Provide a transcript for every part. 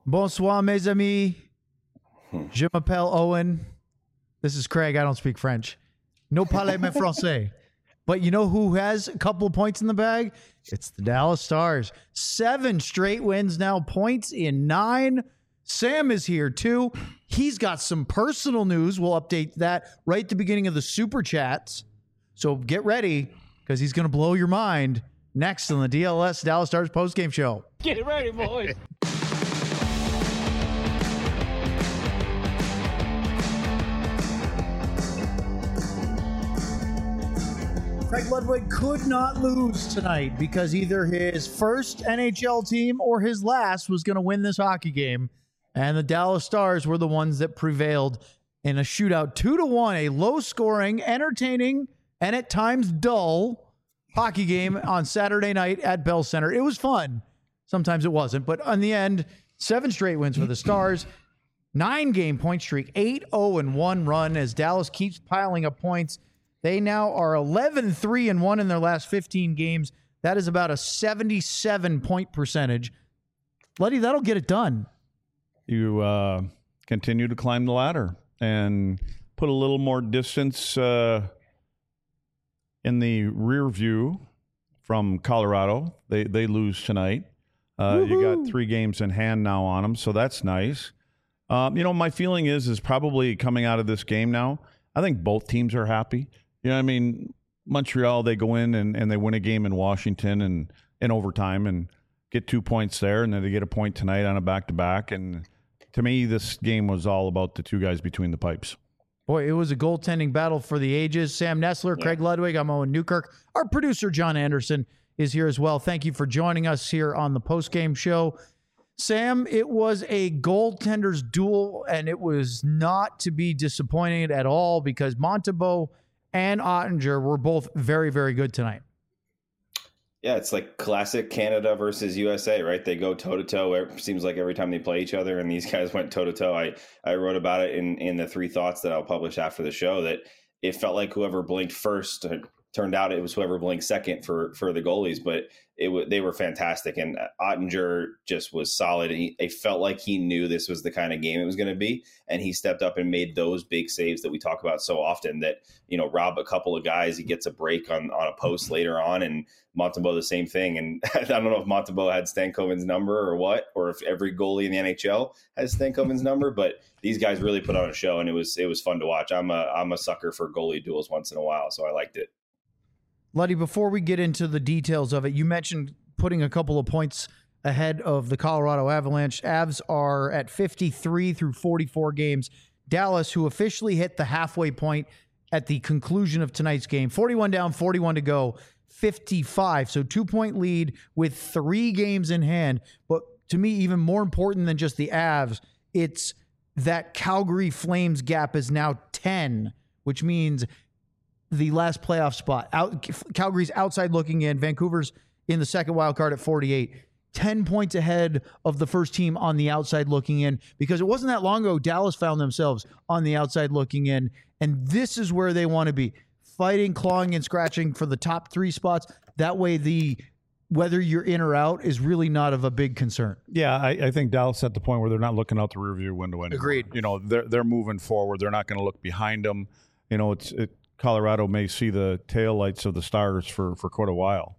Bonsoir, mes amis. Je m'appelle Owen. This is Craig. I don't speak French. No parle me français. But you know who has a couple of points in the bag? It's the Dallas Stars. 7 straight wins now, points in 9. Sam is here too. He's got some personal news. We'll update that right at the beginning of the Super Chats. So get ready because he's going to blow your mind next on the DLS Dallas Stars postgame show. Get ready, boys. Craig Ludwig could not lose tonight because either his first NHL team or his last was going to win this hockey game. And the Dallas Stars were the ones that prevailed in a shootout 2-1, a low-scoring, entertaining, and at times dull hockey game on Saturday night at Bell Center. It was fun. Sometimes it wasn't. But in the end, 7 straight wins for the Stars, 9-game point streak, 8-0-1 run as Dallas keeps piling up points. They now are 11-3-1 in their last 15 games. That is about a 77-point percentage. Luddy, that'll get it done. You continue to climb the ladder and put a little more distance in the rear view from Colorado. They lose tonight. You got 3 games in hand now on them, so that's nice. My feeling is probably coming out of this game now, I think both teams are happy. You know what I mean? Montreal, they go in and they win a game in Washington and in overtime and get 2 points there, and then they get a point tonight on a back-to-back. And to me, this game was all about the 2 guys between the pipes. Boy, it was a goaltending battle for the ages. Sam Nessler, Craig Ludwig, I'm Owen Newkirk. Our producer, John Anderson, is here as well. Thank you for joining us here on the postgame show. Sam, it was a goaltender's duel, and it was not to be disappointed at all because Montembeault and Ottinger were both very, very good tonight. Yeah, it's like classic Canada versus USA, right? They go toe-to-toe. It seems like every time they play each other, and these guys went toe-to-toe. I wrote about it in the 3 thoughts that I'll publish after the show, that it felt like whoever blinked first, turned out it was whoever blinked second for the goalies, but they were fantastic. And Ottinger just was solid. It felt like he knew this was the kind of game it was going to be, and he stepped up and made those big saves that we talk about so often that, rob a couple of guys, he gets a break on a post later on, and Montembeault the same thing. And I don't know if Montembeault had Stankoven's number or what, or if every goalie in the NHL has Stankoven's number, but these guys really put on a show, and it was fun to watch. I'm a sucker for goalie duels once in a while, so I liked it. Luddy, before we get into the details of it, you mentioned putting a couple of points ahead of the Colorado Avalanche. Avs are at 53 through 44 games. Dallas, who officially hit the halfway point at the conclusion of tonight's game, 41 down, 41 to go, 55. So 2-point lead with 3 games in hand. But to me, even more important than just the Avs, it's that Calgary Flames gap is now 10, which means the last playoff spot. Calgary's outside looking in. Vancouver's in the second wild card at 48. 10 points ahead of the first team on the outside looking in, because it wasn't that long ago Dallas found themselves on the outside looking in, and this is where they want to be, fighting, clawing, and scratching for the top 3 spots. That way whether you're in or out is really not of a big concern. Yeah, I think Dallas at the point where they're not looking out the rearview window anymore. Agreed. They're moving forward. They're not going to look behind them. Colorado may see the taillights of the Stars for quite a while.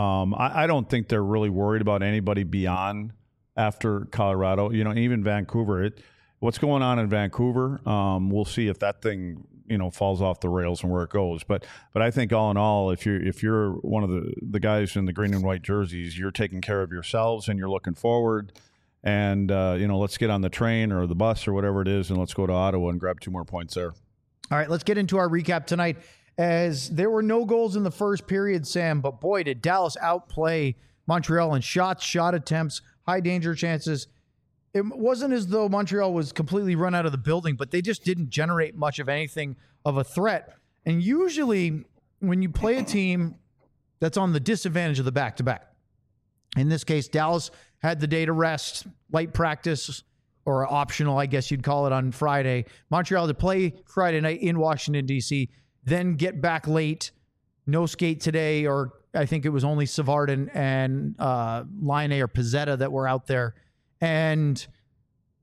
I don't think they're really worried about anybody beyond after Colorado. Even Vancouver. What's going on in Vancouver? We'll see if that thing falls off the rails and where it goes. But I think all in all, if you're one of the guys in the green and white jerseys, you're taking care of yourselves and you're looking forward. And let's get on the train or the bus or whatever it is, and let's go to Ottawa and grab 2 more points there. All right, let's get into our recap tonight, as there were no goals in the first period, Sam, but boy, did Dallas outplay Montreal in shots, shot attempts, high danger chances. It wasn't as though Montreal was completely run out of the building, but they just didn't generate much of anything of a threat. And usually when you play a team that's on the disadvantage of the back-to-back, in this case, Dallas had the day to rest, light practice, or optional, I guess you'd call it, on Friday. Montreal to play Friday night in Washington, D.C., then get back late, no skate today, or I think it was only Savard and Laine or Pizzetta that were out there. And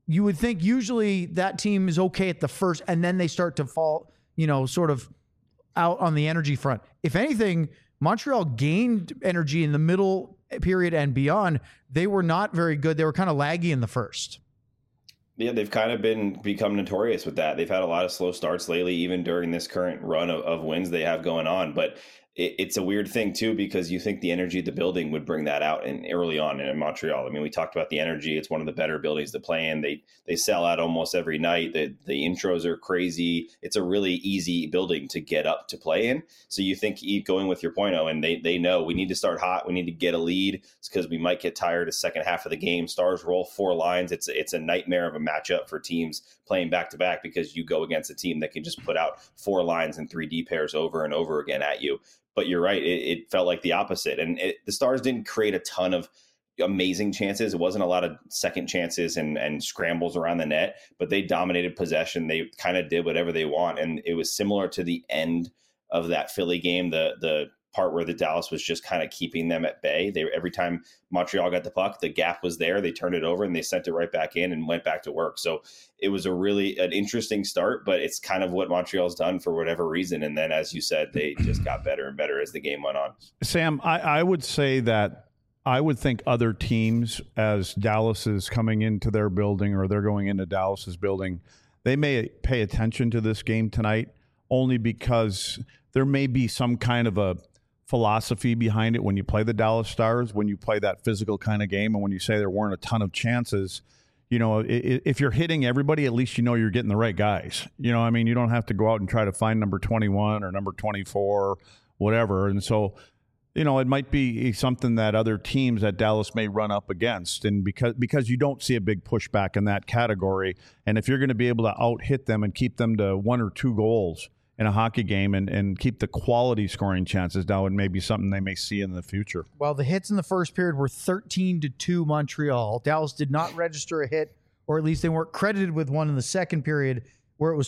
you would think usually that team is okay at the first, and then they start to fall, sort of out on the energy front. If anything, Montreal gained energy in the middle period and beyond. They were not very good. They were kind of laggy in the first. Yeah, they've kind of become notorious with that. They've had a lot of slow starts lately, even during this current run of wins they have going on. But it's a weird thing, too, because you think the energy of the building would bring that out early on in Montreal. I mean, we talked about the energy. It's one of the better buildings to play in. They sell out almost every night. The intros are crazy. It's a really easy building to get up to play in. So you think going with your point, and they know we need to start hot. We need to get a lead. It's because we might get tired the second half of the game. Stars roll 4 lines. It's a nightmare of a matchup for teams playing back-to-back because you go against a team that can just put out 4 lines and 3D pairs over and over again at you. But you're right. It felt like the opposite. And the Stars didn't create a ton of amazing chances. It wasn't a lot of second chances and scrambles around the net, but they dominated possession. They kind of did whatever they want. And it was similar to the end of that Philly game, the part where the Dallas was just kind of keeping them at bay. Every time Montreal got the puck, the gap was there. They turned it over and they sent it right back in and went back to work. So it was an interesting start, but it's kind of what Montreal's done for whatever reason. And then, as you said, they just got better and better as the game went on. Sam, I would say that I would think other teams, as Dallas is coming into their building or they're going into Dallas's building, they may pay attention to this game tonight only because there may be some kind of a philosophy behind it when you play the Dallas Stars, when you play that physical kind of game, and when you say there weren't a ton of chances. If you're hitting everybody, at least you're getting the right guys. You don't have to go out and try to find number 21 or number 24, whatever. And so, it might be something that other teams at Dallas may run up against. And because you don't see a big pushback in that category, and if you're going to be able to out-hit them and keep them to 1 or 2 goals in a hockey game and keep the quality scoring chances down, and maybe something they may see in the future. Well, the hits in the first period were 13-2 Montreal. Dallas did not register a hit, or at least they weren't credited with one in the second period, where it was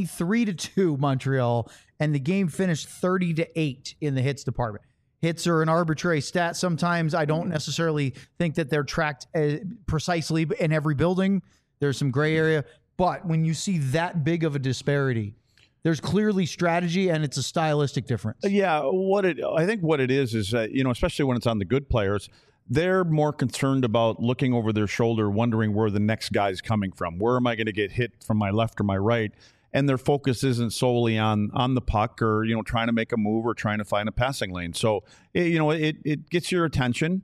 23-2 Montreal, and the game finished 30-8 in the hits department. Hits are an arbitrary stat. Sometimes I don't necessarily think that they're tracked precisely in every building. There's some gray area. But when you see that big of a disparity, there's clearly strategy, and it's a stylistic difference. Yeah, I think what it is that, especially when it's on the good players, they're more concerned about looking over their shoulder, wondering where the next guy's coming from. Where am I going to get hit from my left or my right? And their focus isn't solely on the puck or, trying to make a move or trying to find a passing lane. So, it gets your attention.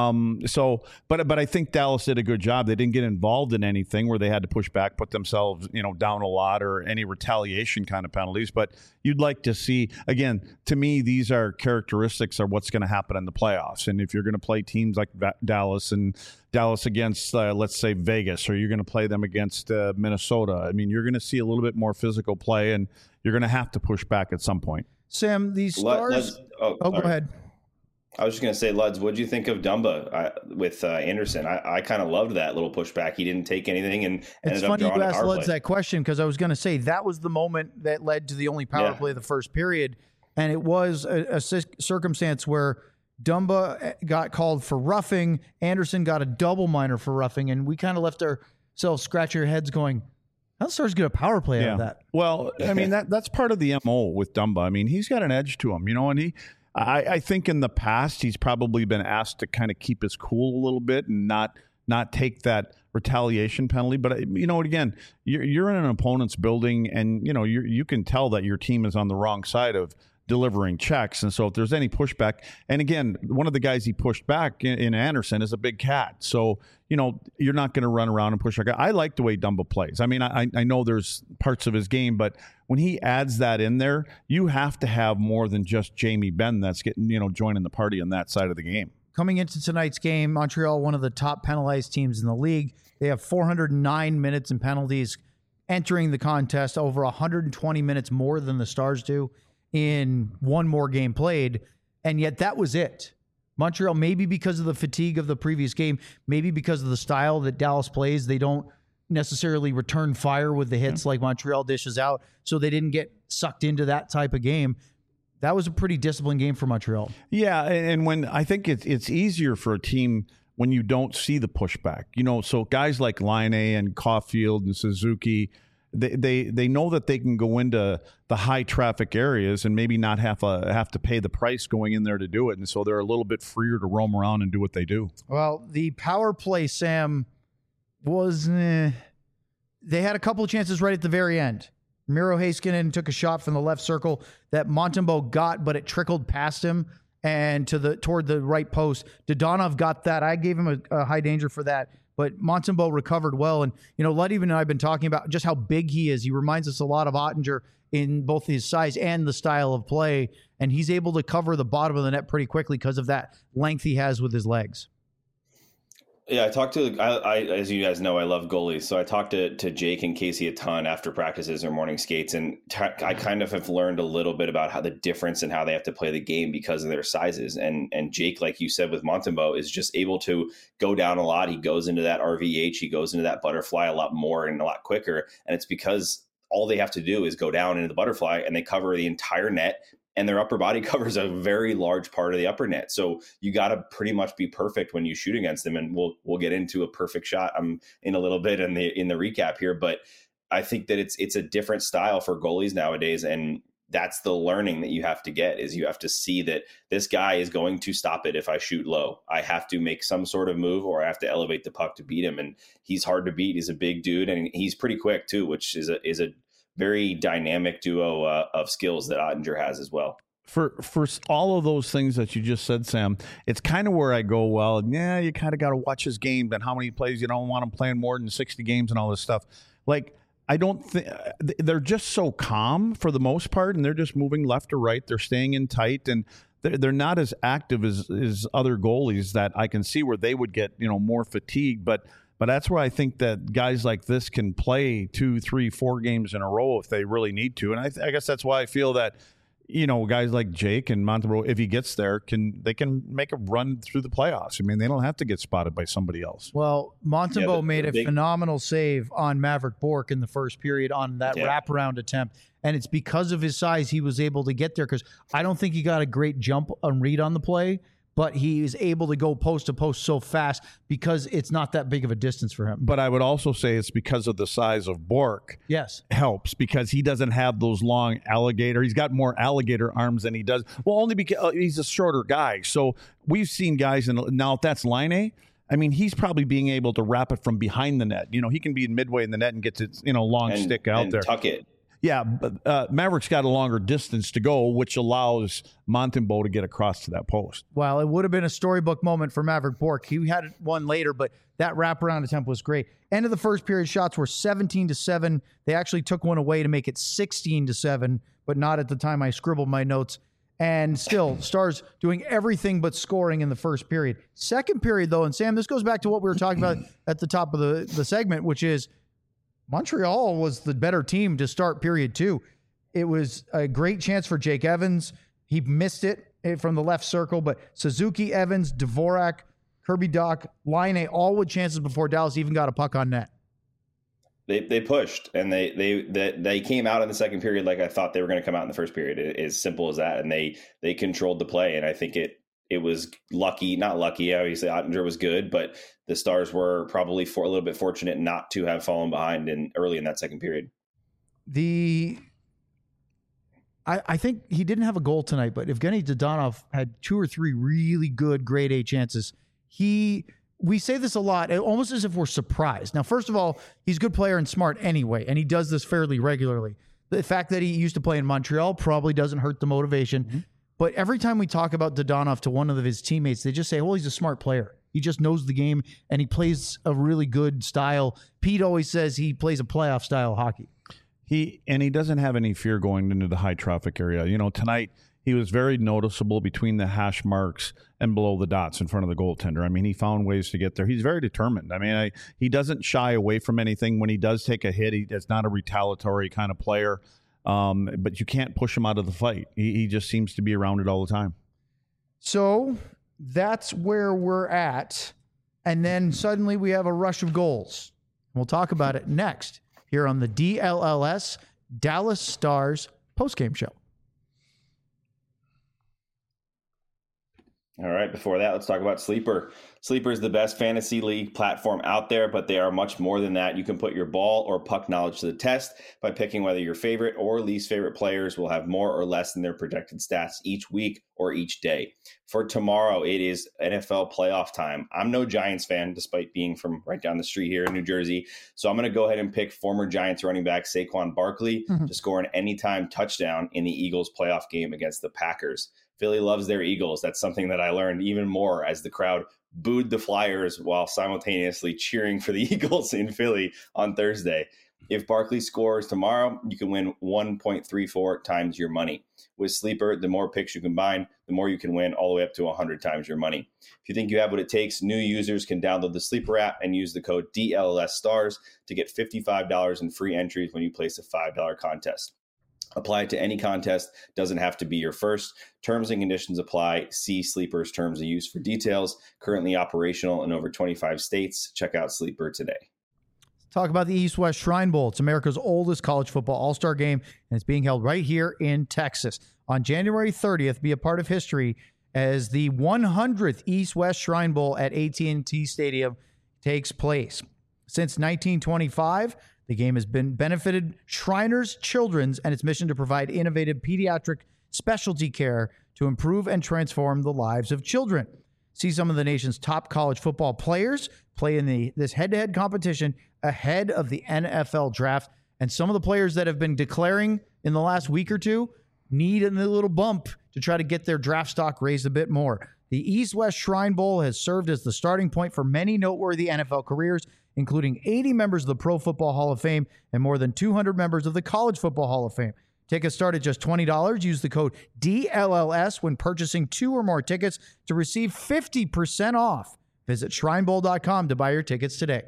But I think Dallas did a good job. They didn't get involved in anything where they had to push back, put themselves, down a lot, or any retaliation kind of penalties. But you'd like to see, again, to me, these are characteristics of what's going to happen in the playoffs. And if you're going to play teams like Dallas and Dallas against, let's say, Vegas, or you're going to play them against Minnesota, I mean, you're going to see a little bit more physical play, and you're going to have to push back at some point. Sam, these Stars. Go ahead. I was just going to say, Luds, what did you think of Dumba with Anderson? I kind of loved that little pushback. He didn't take anything and it's funny you asked Luds that question, because I was going to say that was the moment that led to the only power play of the first period. And it was a circumstance where Dumba got called for roughing. Anderson got a double minor for roughing. And we kind of left ourselves scratching our heads going, how the Stars get a power play out of that? Well, I mean, that's part of the MO with Dumba. I mean, he's got an edge to him, and I think in the past he's probably been asked to kind of keep his cool a little bit and not take that retaliation penalty. But again, you're in an opponent's building, and you can tell that your team is on the wrong side of delivering checks. And so if there's any pushback, and again, one of the guys he pushed back in Anderson is a big cat. So, you're not going to run around and push a guy. I like the way Dumba plays. I mean, I know there's parts of his game, but when he adds that in there, you have to have more than just Jamie Benn that's getting, joining the party on that side of the game. Coming into tonight's game, Montreal, one of the top penalized teams in the league. They have 409 minutes in penalties entering the contest, over 120 minutes more than the Stars do in one more game played. And yet that was it. Montreal, maybe because of the fatigue of the previous game, maybe because of the style that Dallas plays, they don't necessarily return fire with the hits like Montreal dishes out, so they didn't get sucked into that type of game. That was a pretty disciplined game for Montreal. Yeah, and when I think it's easier for a team when you don't see the pushback. So guys like Line and Caulfield and Suzuki, they know that they can go into the high traffic areas and maybe not have to pay the price going in there to do it. And so they're a little bit freer to roam around and do what they do. Well, the power play, Sam, was they had a couple of chances right at the very end. Miro Heiskanen took a shot from the left circle that Montembeault got, but it trickled past him and toward the right post. Dadonov got that. I gave him a high danger for that, but Montembeault recovered well. And, Ludwig and I have been talking about just how big he is. He reminds us a lot of Ottinger in both his size and the style of play, and he's able to cover the bottom of the net pretty quickly because of that length he has with his legs. Yeah, I talked to, as you guys know, I love goalies. So I talked to Jake and Casey a ton after practices or morning skates. And I kind of have learned a little bit about how the difference and how they have to play the game because of their sizes. And Jake, like you said with Montembeault, is just able to go down a lot. He goes into that RVH, he goes into that butterfly a lot more and a lot quicker. And it's because all they have to do is go down into the butterfly and they cover the entire net. And their upper body covers a very large part of the upper net. So you got to pretty much be perfect when you shoot against them. And we'll get into a perfect shot in a little bit in the recap here. But I think that it's a different style for goalies nowadays. And that's the learning that you have to get, is you have to see that this guy is going to stop it if I shoot low. I have to make some sort of move or I have to elevate the puck to beat him. And he's hard to beat. He's a big dude and he's pretty quick too, which is a very dynamic duo of skills that Ottinger has as well. For all of those things that you just said, Sam, it's kind of where I go, well, yeah, you kind of got to watch his game and how many plays. You don't want him playing more than 60 games and all this stuff. Like, I don't think they're just so calm for the most part, and they're just moving left or right. They're staying in tight, and they're not as active as other goalies that I can see where they would get more fatigued. But that's where I think that guys like this can play 2, 3, 4 games in a row if they really need to. And I guess that's why I feel that, guys like Jake and Montembeault, if he gets there, they can make a run through the playoffs. I mean, they don't have to get spotted by somebody else. Well, Montembeault made a phenomenal save on Maverick Bourque in the first period on that wraparound attempt. And it's because of his size he was able to get there, because I don't think he got a great jump and read on the play, but he is able to go post to post so fast because it's not that big of a distance for him. But I would also say it's because of the size of Bourque. Yes. Helps because he doesn't have those long alligator. He's got more alligator arms than he does. Well, only because he's a shorter guy. So we've seen guys, and now if that's Line, I mean, he's probably being able to wrap it from behind the net. He can be midway in the net and gets it, long stick out there. Tuck it. Yeah, but Maverick's got a longer distance to go, which allows Montembeault to get across to that post. Well, it would have been a storybook moment for Maverick Bourque. He had one later, but that wraparound attempt was great. End of the first period, shots were 17-7. They actually took one away to make it 16-7, but not at the time I scribbled my notes. And still, Stars doing everything but scoring in the first period. Second period, though, and Sam, this goes back to what we were talking about at the top of the segment, which is Montreal was the better team to start period 2. It was a great chance for Jake Evans. He missed it from the left circle, but Suzuki, Evans, Dvorak, Kirby Dach, Line, all with chances before Dallas even got a puck on net. They pushed, and they came out in the second period like I thought they were going to come out in the first period. As simple as that, and they controlled the play, and I think it was not lucky. Obviously, Ottinger was good, but the Stars were probably a little bit fortunate not to have fallen behind early in that second period. I think he didn't have a goal tonight, but Evgeny Dadonov had 2 or 3 really good grade A chances. We say this a lot, almost as if we're surprised. Now, first of all, he's a good player and smart anyway, and he does this fairly regularly. The fact that he used to play in Montreal probably doesn't hurt the motivation. Mm-hmm. But every time we talk about Dadonov to one of his teammates, they just say, well, he's a smart player. He just knows the game, and he plays a really good style. Pete always says he plays a playoff style hockey. He doesn't have any fear going into the high traffic area. Tonight he was very noticeable between the hash marks and below the dots in front of the goaltender. I mean, he found ways to get there. He's very determined. I mean, he doesn't shy away from anything. When he does take a hit, it's not a retaliatory kind of player. But you can't push him out of the fight. He just seems to be around it all the time. So that's where we're at. And then suddenly we have a rush of goals. We'll talk about it next here on the DLLS Dallas Stars postgame show. All right. Before that, let's talk about Sleeper. Sleeper is the best fantasy league platform out there, but they are much more than that. You can put your ball or puck knowledge to the test by picking whether your favorite or least favorite players will have more or less than their projected stats each week or each day. For tomorrow, it is NFL playoff time. I'm no Giants fan, despite being from right down the street here in New Jersey. So I'm going to go ahead and pick former Giants running back Saquon Barkley to score an anytime touchdown in the Eagles playoff game against the Packers. Philly loves their Eagles. That's something that I learned even more as the crowd booed the Flyers while simultaneously cheering for the Eagles in Philly on Thursday. If Barkley scores tomorrow, you can win 1.34 times your money. With Sleeper, the more picks you combine, the more you can win, all the way up to 100 times your money. If you think you have what it takes, new users can download the Sleeper app and use the code DLLSstars to get $55 in free entries when you place a $5 contest. Apply it to any contest. Doesn't have to be your first. Terms and conditions apply. See Sleeper's terms of use for details. Currently operational in over 25 states. Check out Sleeper today. Talk about the East-West Shrine Bowl. It's America's oldest college football all-star game, and it's being held right here in Texas. On January 30th, be a part of history as the 100th East-West Shrine Bowl at AT&T Stadium takes place. Since 1925, the game has been benefited Shriners Children's and its mission to provide innovative pediatric specialty care to improve and transform the lives of children. See some of the nation's top college football players play in this head-to-head competition ahead of the NFL draft. And some of the players that have been declaring in the last week or two need a little bump to try to get their draft stock raised a bit more. The East-West Shrine Bowl has served as the starting point for many noteworthy NFL careers, including 80 members of the Pro Football Hall of Fame and more than 200 members of the College Football Hall of Fame. Tickets start at just $20. Use the code DLLS when purchasing 2 or more tickets to receive 50% off. Visit shrinebowl.com to buy your tickets today.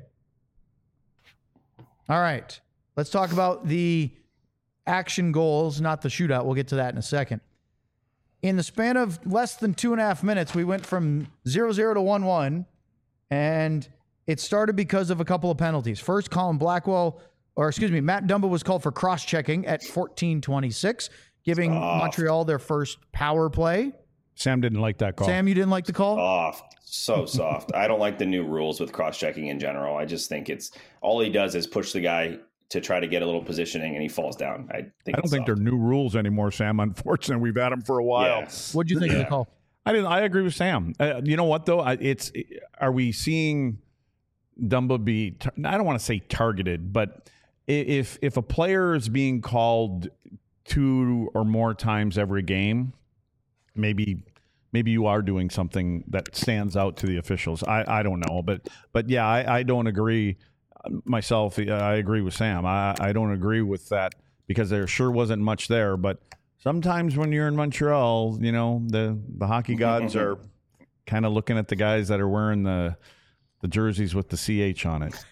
All right, let's talk about the action goals, not the shootout. We'll get to that in a second. In the span of less than 2.5 minutes, we went from 0-0 to 1-1, and it started because of a couple of penalties. First, Matt Dumba was called for cross-checking at 14:26, giving Montreal their first power play. Sam didn't like that call. Sam, you didn't like the call? Soft. So soft. I don't like the new rules with cross-checking in general. I just think it's all he does is push the guy to try to get a little positioning, and he falls down. I don't think they're new rules anymore, Sam. Unfortunately, we've had them for a while. Yeah. What do you think of the call? I agree with Sam. You know what, though? Are we seeing Dumba be, I don't want to say targeted, but if a player is being called 2 or more times every game, maybe you are doing something that stands out to the officials. I don't know, but yeah, I don't agree myself. I agree with Sam. I don't agree with that because there sure wasn't much there, but sometimes when you're in Montreal, you know, the hockey gods are kind of looking at the guys that are wearing the jerseys with the CH on it.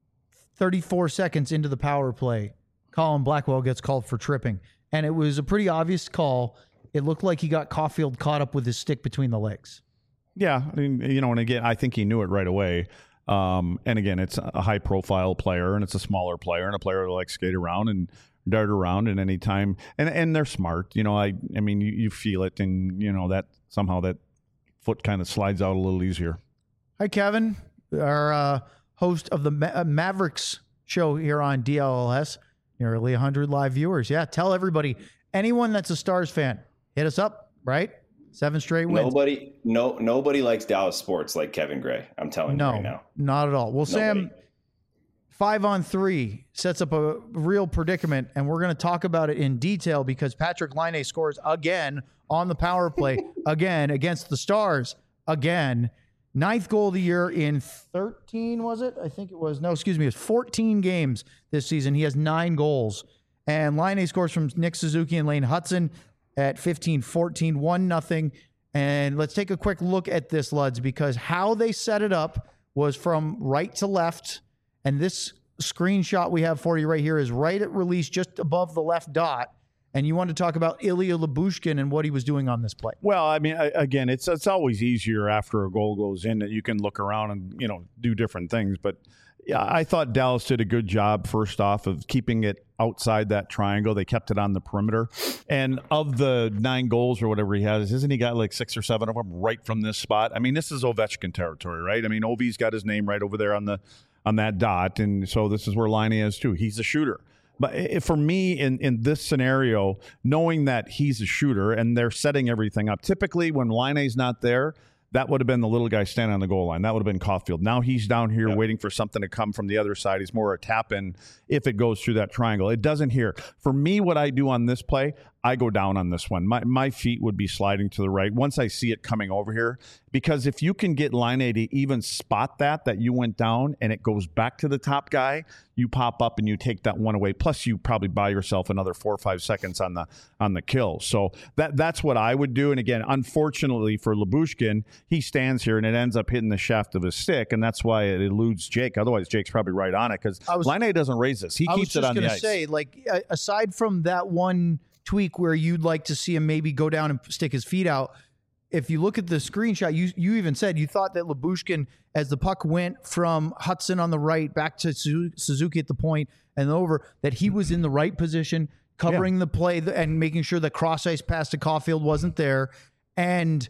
34 seconds into the power play, Colin Blackwell gets called for tripping, and it was a pretty obvious call. It looked like he got Caulfield caught up with his stick between the legs. Yeah, I mean, you know, and again, I think he knew it right away. And again, it's a high-profile player, and it's a smaller player, and a player who likes to skate around and dart around at any time. And they're smart. You know, I mean, you feel it, and, you know, that somehow that foot kind of slides out a little easier. Hi, Kevin, our host of the Mavericks show here on DLLS. Nearly 100 live viewers. Yeah, tell everybody, anyone that's a Stars fan, hit us up, right? 7 straight wins. Nobody likes Dallas sports like Kevin Gray. I'm telling you right now. Not at all. Well, Nobody. Sam, 5-on-3 sets up a real predicament, and we're going to talk about it in detail because Patrick Laine scores again on the power play, again against the Stars, again. 9th goal of the year in 13, was it? I think it was. No, excuse me. It was 14 games this season. He has 9 goals. And Laine scores from Nick Suzuki and Lane Hudson at 15-14, 1-0. And let's take a quick look at this, Luds, because how they set it up was from right to left. And this screenshot we have for you right here is right at release, just above the left dot. And you want to talk about Ilya Lyubushkin and what he was doing on this play. Well, I mean, again, it's always easier after a goal goes in that you can look around and, you know, do different things. But Yeah, I thought Dallas did a good job, first off, of keeping it outside that triangle. They kept it on the perimeter. And of the 9 goals or whatever he has, isn't he got like 6 or 7 of them right from this spot? I mean, this is Ovechkin territory, right? I mean, Ovi's got his name right over there on that dot. And so this is where Laine is too. He's a shooter. But for me, in this scenario, knowing that he's a shooter and they're setting everything up, typically when Laine's not there, that would have been the little guy standing on the goal line. That would have been Caulfield. Now he's down here waiting for something to come from the other side. He's more a tap-in if it goes through that triangle. It doesn't here. For me, what I do on this play, I go down on this one. My feet would be sliding to the right once I see it coming over here. Because if you can get Laine to even spot that you went down and it goes back to the top guy, you pop up and you take that one away. Plus, you probably buy yourself another 4 or 5 seconds on the kill. So that's what I would do. And again, unfortunately for Lyubushkin, he stands here and it ends up hitting the shaft of his stick, and that's why it eludes Jake. Otherwise, Jake's probably right on it because Laine doesn't raise this. He keeps it on the ice. I was just going to say, like, aside from that one tweak where you'd like to see him maybe go down and stick his feet out, if you look at the screenshot, you even said you thought that Lyubushkin, as the puck went from Hudson on the right back to Suzuki at the point and over, that he was in the right position, covering the play and making sure the cross ice pass to Caulfield wasn't there. And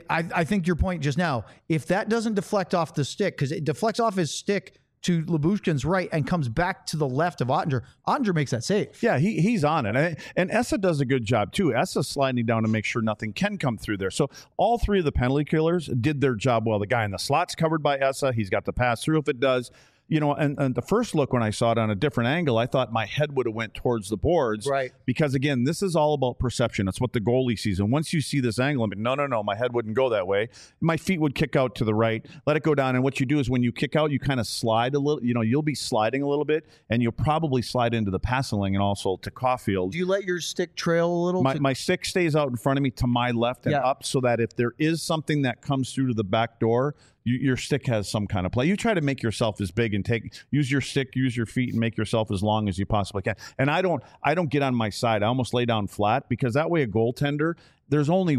I think your point just now, if that doesn't deflect off the stick, because it deflects off his stick to Lyubushkin's right and comes back to the left of Ottinger. Ottinger makes that save. Yeah, he's on it. And Essa does a good job, too. Essa's sliding down to make sure nothing can come through there. So all 3 of the penalty killers did their job well. The guy in the slot's covered by Essa. He's got the pass through if it does. You know, and the first look when I saw it on a different angle, I thought my head would have went towards the boards. Right. Because, again, this is all about perception. It's what the goalie sees. And once you see this angle, I'm like, no, my head wouldn't go that way. My feet would kick out to the right, let it go down. And what you do is when you kick out, you kind of slide a little. You know, you'll be sliding a little bit, and you'll probably slide into the passing lane and also to Caulfield. Do you let your stick trail a little? My stick stays out in front of me to my left and up so that if there is something that comes through to the back door, your stick has some kind of play. You try to make yourself as big and use your stick, use your feet, and make yourself as long as you possibly can. And I don't get on my side. I almost lay down flat because that way a goaltender, there's only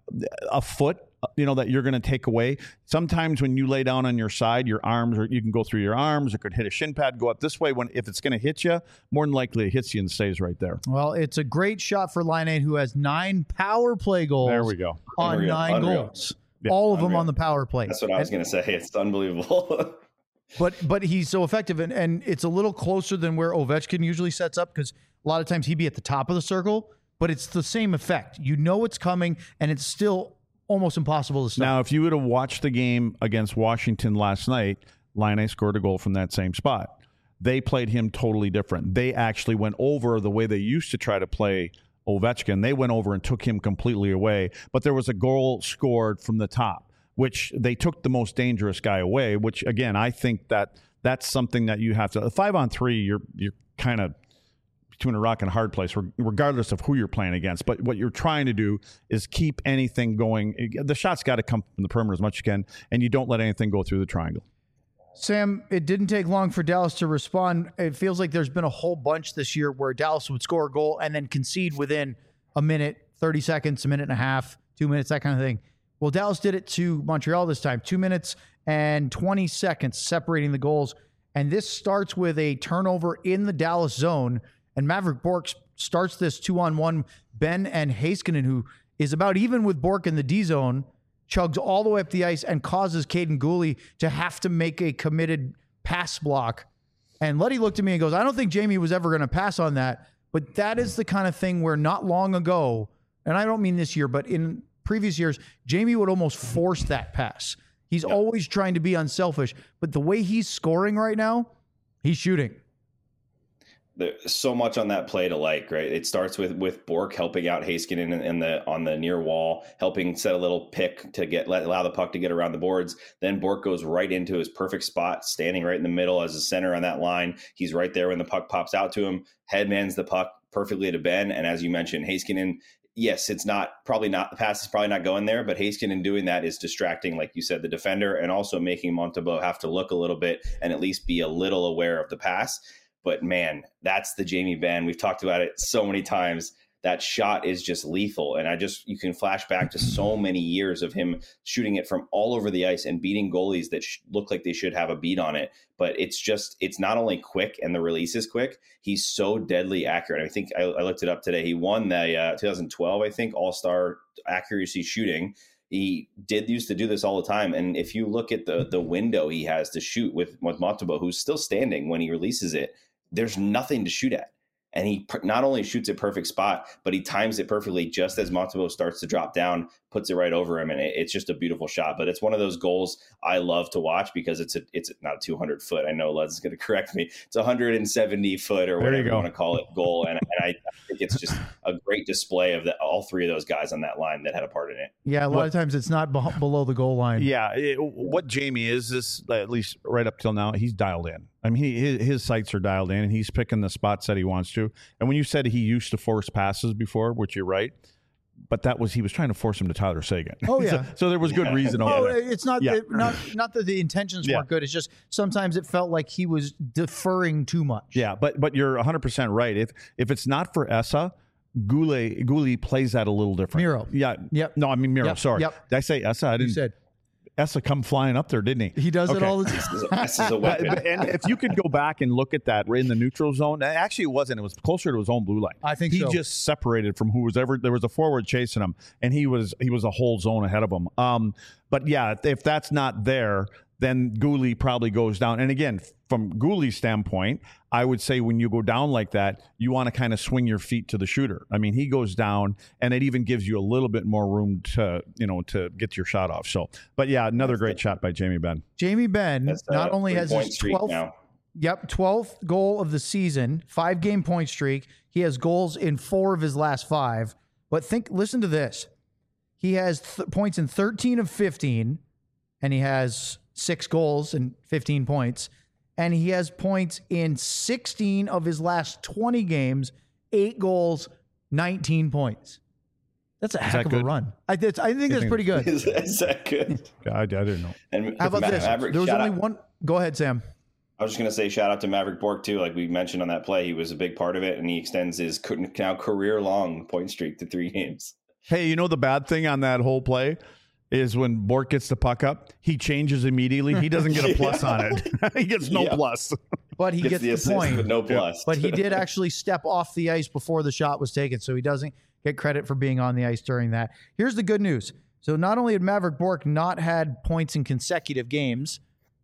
a foot, that you're going to take away. Sometimes when you lay down on your side, your arms, or you can go through your arms, it could hit a shin pad, go up this way. If it's going to hit you, more than likely it hits you and stays right there. Well, it's a great shot for Laine, who has 9 power play goals. There we go. On 9 goals. Yeah. All of them on the power play. That's what I was going to say. It's unbelievable. But he's so effective, and it's a little closer than where Ovechkin usually sets up, because a lot of times he'd be at the top of the circle, but it's the same effect. You know it's coming, and it's still almost impossible to stop. Now, if you would have watched the game against Washington last night, Laine scored a goal from that same spot. They played him totally different. They actually went over the way they used to try to play Ovechkin. They went over and took him completely away, but there was a goal scored from the top, which they took the most dangerous guy away, which again, I think that's something that you have to, 5-on-3, you're kind of between a rock and a hard place, regardless of who you're playing against. But what you're trying to do is keep anything going. The shot's got to come from the perimeter as much as you can, and you don't let anything go through the triangle. Sam, it didn't take long for Dallas to respond. It feels like there's been a whole bunch this year where Dallas would score a goal and then concede within a minute, 30 seconds, a minute and a half, 2 minutes, that kind of thing. Well, Dallas did it to Montreal this time, 2 minutes and 20 seconds separating the goals. And this starts with a turnover in the Dallas zone. And Maverick Bourque starts this 2-on-1. Ben and Heiskanen, who is about even with Bourque in the D zone, chugs all the way up the ice and causes Caden Gooley to have to make a committed pass block. And Letty looked at me and goes, I don't think Jamie was ever going to pass on that. But that is the kind of thing where not long ago, and I don't mean this year, but in previous years, Jamie would almost force that pass. He's always trying to be unselfish. But the way he's scoring right now, he's shooting. There's so much on that play to like, right? It starts with Bourque helping out Heiskanen on the near wall, helping set a little pick to allow the puck to get around the boards. Then Bourque goes right into his perfect spot, standing right in the middle as a center on that line. He's right there when the puck pops out to him, headmans the puck perfectly to Ben. And as you mentioned, Heiskanen, yes, the pass is probably not going there, but Heiskanen doing that is distracting, like you said, the defender, and also making Montembeault have to look a little bit and at least be a little aware of the pass. But man, that's the Jamie Benn. We've talked about it so many times. that shot is just lethal. And you can flash back to so many years of him shooting it from all over the ice and beating goalies that look like they should have a beat on it. But it's not only quick and the release is quick, he's so deadly accurate. I think I looked it up today. He won the 2012, I think, All-Star accuracy shooting. He used to do this all the time. And if you look at the window he has to shoot with Montembeault, who's still standing when he releases it, there's nothing to shoot at. And he not only shoots a perfect spot, but he times it perfectly just as Montembeault starts to drop down, puts it right over him. And it's just a beautiful shot. But it's one of those goals I love to watch because it's not a 200 foot. I know Les is going to correct me. It's 170 foot or whatever you want to call it goal. And I think it's just a great display of all three of those guys on that line that had a part in it. Yeah, a lot of times it's not below the goal line. Yeah, what Jamie is, at least right up till now, he's dialed in. I mean, his sights are dialed in, and he's picking the spots that he wants to. And when you said he used to force passes before, which you're right, but he was trying to force him to Tyler Seguin. Oh yeah, so there was good reason. It's not not that the intentions weren't good. It's just sometimes it felt like he was deferring too much. Yeah, but you're 100% right. If it's not for Essa, Goulet plays that a little different. Miro. Yeah. Yep. No, I mean Miro. Yep. Sorry. Yep. Did I say Essa? I didn't. You said Essa come flying up there, didn't he? He does it all the time. This is a weapon. And if you could go back and look at that in the neutral zone, actually it wasn't. It was closer to his own blue line. I think he so. just separated from who was ever. There was a forward chasing him, and he was a whole zone ahead of him. But yeah, if that's not there, then Goulet probably goes down. And again, from Goulet's standpoint, I would say when you go down like that, you want to kind of swing your feet to the shooter. I mean, he goes down, and it even gives you a little bit more room to get your shot off. So, but yeah, another great shot by Jamie Benn. Jamie Benn not only has his 12th goal of the season, 5-game point streak. He has goals in 4 of his last 5. But listen to this. He has points in 13 of 15, and he has 6 goals and 15 points. And he has points in 16 of his last 20 games, 8 goals, 19 points. That's a heck of a run. I think that's pretty good. Is that good? Yeah, I didn't know. And how about this? There was only one. Go ahead, Sam. I was just going to say shout out to Maverick Bourque, too. Like we mentioned on that play, he was a big part of it, and he extends his now career-long point streak to 3 games. Hey, the bad thing on that whole play is when Bourque gets the puck up, he changes immediately. He doesn't get a plus on it. He gets no plus. But he gets the point. But no plus. But he did actually step off the ice before the shot was taken, so he doesn't get credit for being on the ice during that. Here's the good news. So not only had Maverick Bourque not had points in consecutive games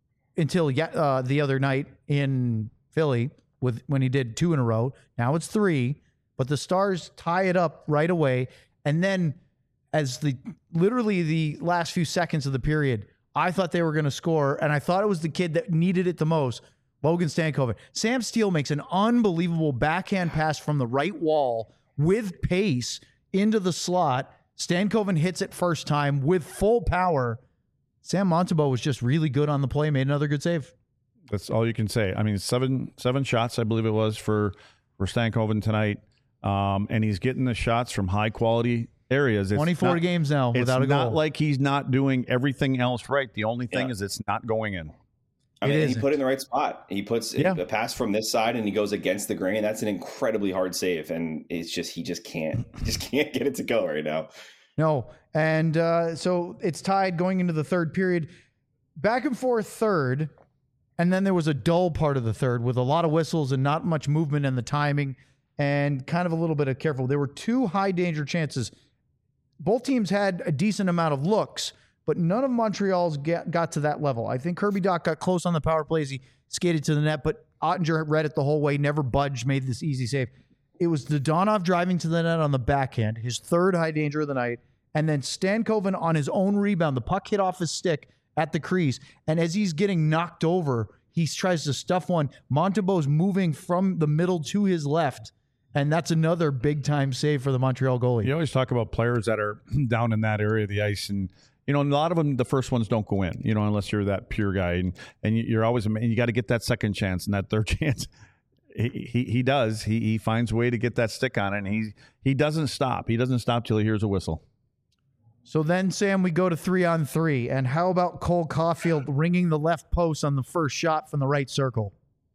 until the other night in Philly when he did 2 in a row. Now it's 3, but the Stars tie it up right away. And then as literally the last few seconds of the period, I thought they were going to score, and I thought it was the kid that needed it the most, Logan Stankoven. Sam Steele makes an unbelievable backhand pass from the right wall with pace into the slot. Stankoven hits it first time with full power. Sam Montembeault was just really good on the play, made another good save. That's all you can say. I mean, seven shots, I believe it was, for Stankoven tonight. And he's getting the shots from high-quality areas. 24 games now without a goal. It's not like he's not doing everything else right. The only thing is it's not going in. I mean, he put it in the right spot. He puts a pass from this side, and he goes against the grain. That's an incredibly hard save, and it's just he just can't get it to go right now. No, and so it's tied going into the third period. Back and forth third, and then there was a dull part of the third with a lot of whistles and not much movement in the timing and kind of a little bit of careful. There were 2 high-danger chances. Both teams had a decent amount of looks, but none of Montreal's got to that level. I think Kirby Dach got close on the power plays. He skated to the net, but Ottinger read it the whole way, never budged, made this easy save. It was Dodonov driving to the net on the backhand, his 3rd high danger of the night, and then Stankoven on his own rebound. The puck hit off his stick at the crease, and as he's getting knocked over, he tries to stuff one. Montembeault's moving from the middle to his left, and that's another big-time save for the Montreal goalie. You always talk about players that are down in that area of the ice, and a lot of them, the first ones don't go in, unless you're that pure guy, and you're always, and you got to get that second chance and that third chance. He does. He finds a way to get that stick on it, and he doesn't stop. He doesn't stop till he hears a whistle. So then, Sam, we go to 3-on-3, and how about Cole Caulfield ringing the left post on the first shot from the right circle?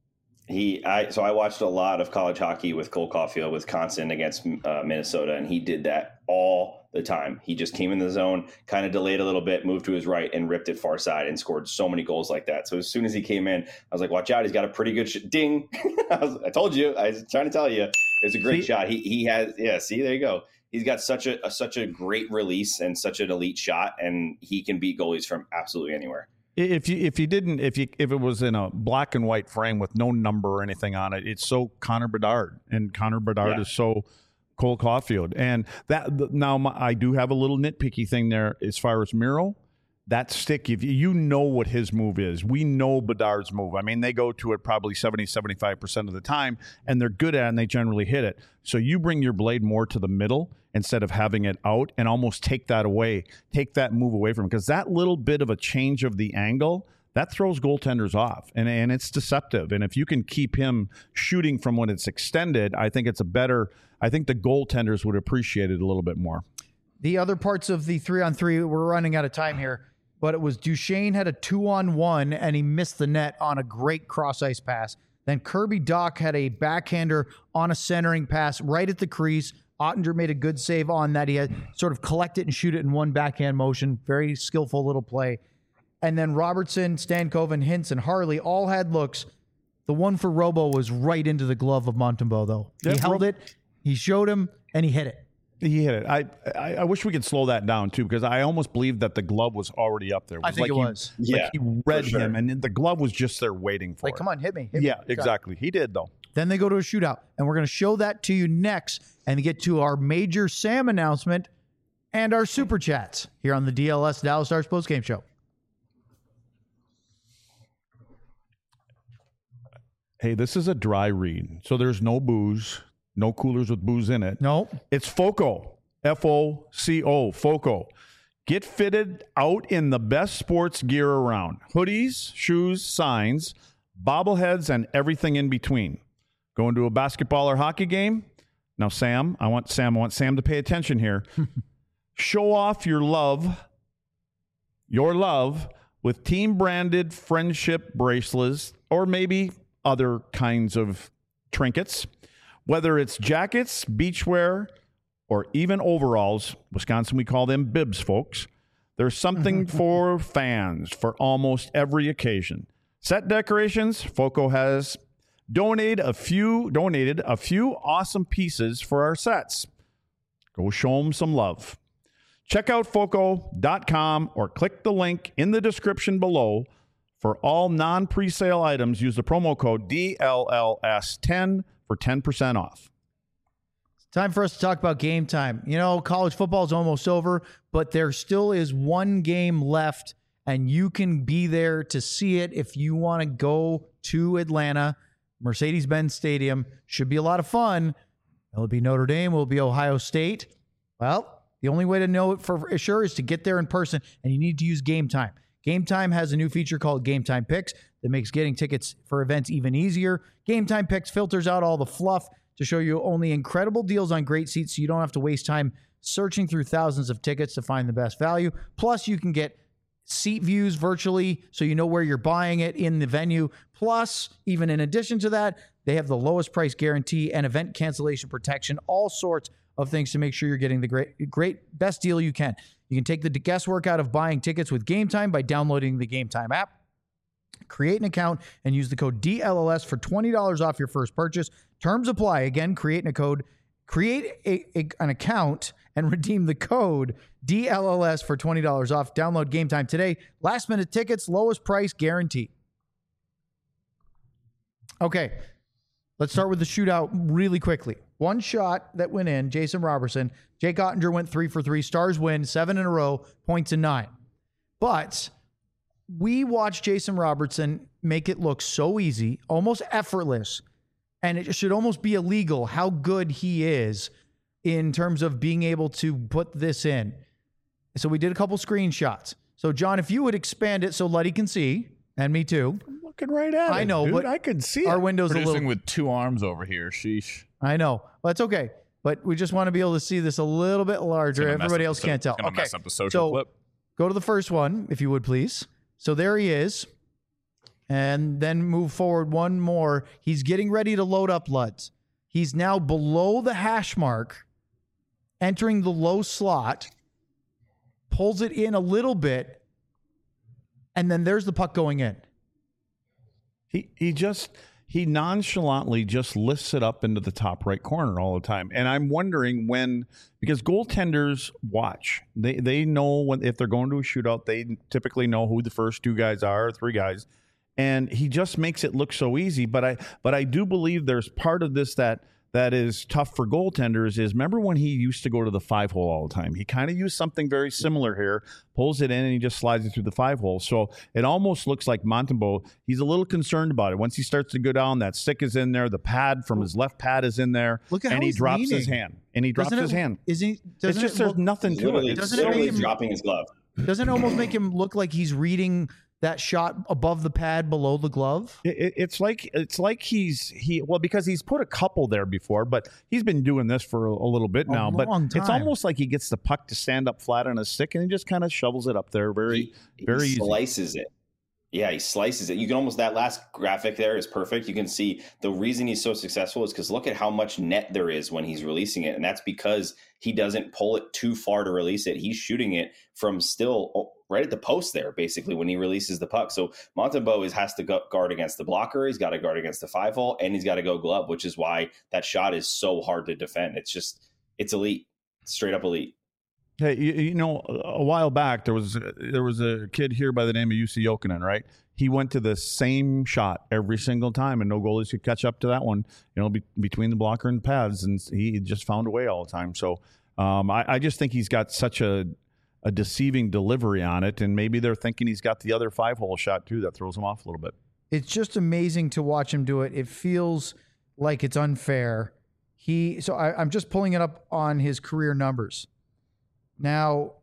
So I watched a lot of college hockey with Cole Caulfield, Wisconsin against Minnesota, and he did that all the time. He just came in the zone, kind of delayed a little bit, moved to his right, and ripped it far side and scored so many goals like that. So as soon as he came in, I was like, watch out. He's got a pretty good ding. I told you. I was trying to tell you. It's a great shot. He has, see, there you go. He's got such a great release and such an elite shot, and he can beat goalies from absolutely anywhere. If it was in a black and white frame with no number or anything on it, it's so Connor Bedard, and Connor Bedard is so Cole Caulfield. And I do have a little nitpicky thing there as far as Miro. That stick, if you know what his move is, we know Bedard's move. I mean, they go to it probably 70-75% of the time, and they're good at it, and they generally hit it. So you bring your blade more to the middle instead of having it out, and almost take that move away from him, because that little bit of a change of the angle, that throws goaltenders off, and it's deceptive. And if you can keep him shooting from when it's extended, I think I think the goaltenders would appreciate it a little bit more. The other parts of the 3-on-3, we're running out of time here, but it was Duchesne had a 2-on-1 and he missed the net on a great cross ice pass. Then Kirby Dach had a backhander on a centering pass right at the crease. Ottinger made a good save on that. He had sort of collect it and shoot it in one backhand motion. Very skillful little play. And then Robertson, Stankoven, Hintz, and Harley all had looks. The one for Robo was right into the glove of Montembeault, though. He held it, he showed him, and he hit it. He hit it. I wish we could slow that down, too, because I almost believed that the glove was already up there. I think it was. Like he read him, and the glove was just there waiting for it. Like, come on, hit me. Yeah, exactly. He did, though. Then they go to a shootout, and we're going to show that to you next and get to our Major Sam announcement and our Super Chats here on the DLS Dallas Stars postgame show. Hey, this is a dry read, so there's no booze, no coolers with booze in it. No. It's FOCO, F-O-C-O, FOCO. Get fitted out in the best sports gear around. Hoodies, shoes, signs, bobbleheads, and everything in between. Going to a basketball or hockey game? Now, Sam, I want Sam to pay attention here. Show off your love with team-branded friendship bracelets or maybe other kinds of trinkets. Whether it's jackets, beachwear, or even overalls, Wisconsin, we call them bibs, folks. There's something for fans for almost every occasion. Set decorations, FOCO has donated a few awesome pieces for our sets. Go show them some love. Check out FOCO.com or click the link in the description below. For all non-presale items, use the promo code DLLS10 for 10% off. It's time for us to talk about game time. You know, college football is almost over, but there still is one game left, and you can be there to see it if you want to go to Atlanta. Mercedes-Benz Stadium should be a lot of fun. Will it be Notre Dame? Will it be Ohio State? Well, the only way to know it for sure is to get there in person, and you need to use Game Time. Game Time has a new feature called Game Time Picks that makes getting tickets for events even easier. Game Time Picks filters out all the fluff to show you only incredible deals on great seats so you don't have to waste time searching through thousands of tickets to find the best value. Plus, you can get seat views virtually so you know where you're buying it in the venue. Plus, even in addition to that, they have the lowest price guarantee and event cancellation protection, all sorts of things to make sure you're getting the great best deal you can. You can take the guesswork out of buying tickets with Game Time by downloading the Game Time app. Create an account and use the code DLLS for $20 off your first purchase. Terms apply. Again, create an account and redeem the code DLLS for $20 off. Download Game Time today. Last minute tickets, lowest price guarantee. Okay, let's start with the shootout really quickly. One shot that went in, Jason Robertson. Jake Ottinger went 3 for 3. Stars win 7 in a row, points in 9. But we watched Jason Robertson make it look so easy, almost effortless, and it should almost be illegal how good he is in terms of being able to put this in. So we did a couple screenshots. So, John, if you would expand it so Luddy can see, and me too. I'm looking right at it. I know, dude. but I can see our it. window's a Producing little... with two arms over here. Sheesh. I know. Well, that's okay. But we just want to be able to see this a little bit larger. Everybody else can't tell. It's mess up the social clip. Go to the first one, if you would, please. So there he is. and then move forward one more. He's getting ready to load up Luds. He's now below the hash mark, entering the low slot, pulls it in a little bit, and then there's the puck going in. He nonchalantly just lifts it up into the top right corner all the time. And I'm wondering when, because goaltenders watch. They know when, if they're going to a shootout, they typically know who the first two guys are, or three guys. And he just makes it look so easy. But I do believe there's part of this that is tough for goaltenders is, remember when he used to go to the 5-hole all the time? He kind of used something very similar here, pulls it in, and he just slides it through the 5-hole. So it almost looks like Montembeault, he's a little concerned about it. Once he starts to go down, that stick is in there, the pad from his left pad is in there, Look at and how he drops leaning. his hand. And he drops his hand. Is he? It's just there's nothing to it. Doesn't it make him dropping his glove? Doesn't it almost make him look like he's reading that shot above the pad below the glove? It's like because he's put a couple there before, but he's been doing this for a little bit now. But it's almost like he gets the puck to stand up flat on his stick, and he just kind of shovels it up there very easy. Slices it. Yeah, he slices it. You can almost, that last graphic there is perfect. You can see the reason he's so successful is because look at how much net there is when he's releasing it. And that's because he doesn't pull it too far to release it. He's shooting it from still right at the post there, basically, when he releases the puck. So Montembeault has to guard against the blocker. He's got to guard against the 5-hole, and he's got to go glove, which is why that shot is so hard to defend. It's elite, straight up elite. Hey, you know, a while back there was a kid here by the name of Jussi Jokinen, right? He went to the same shot every single time, and no goalies could catch up to that one. You know, between the blocker and the pads, and he just found a way all the time. So I just think he's got such a deceiving delivery on it, and maybe they're thinking he's got the other 5-hole shot too that throws him off a little bit. It's just amazing to watch him do it. It feels like it's unfair. I'm just pulling it up on his career numbers. Now,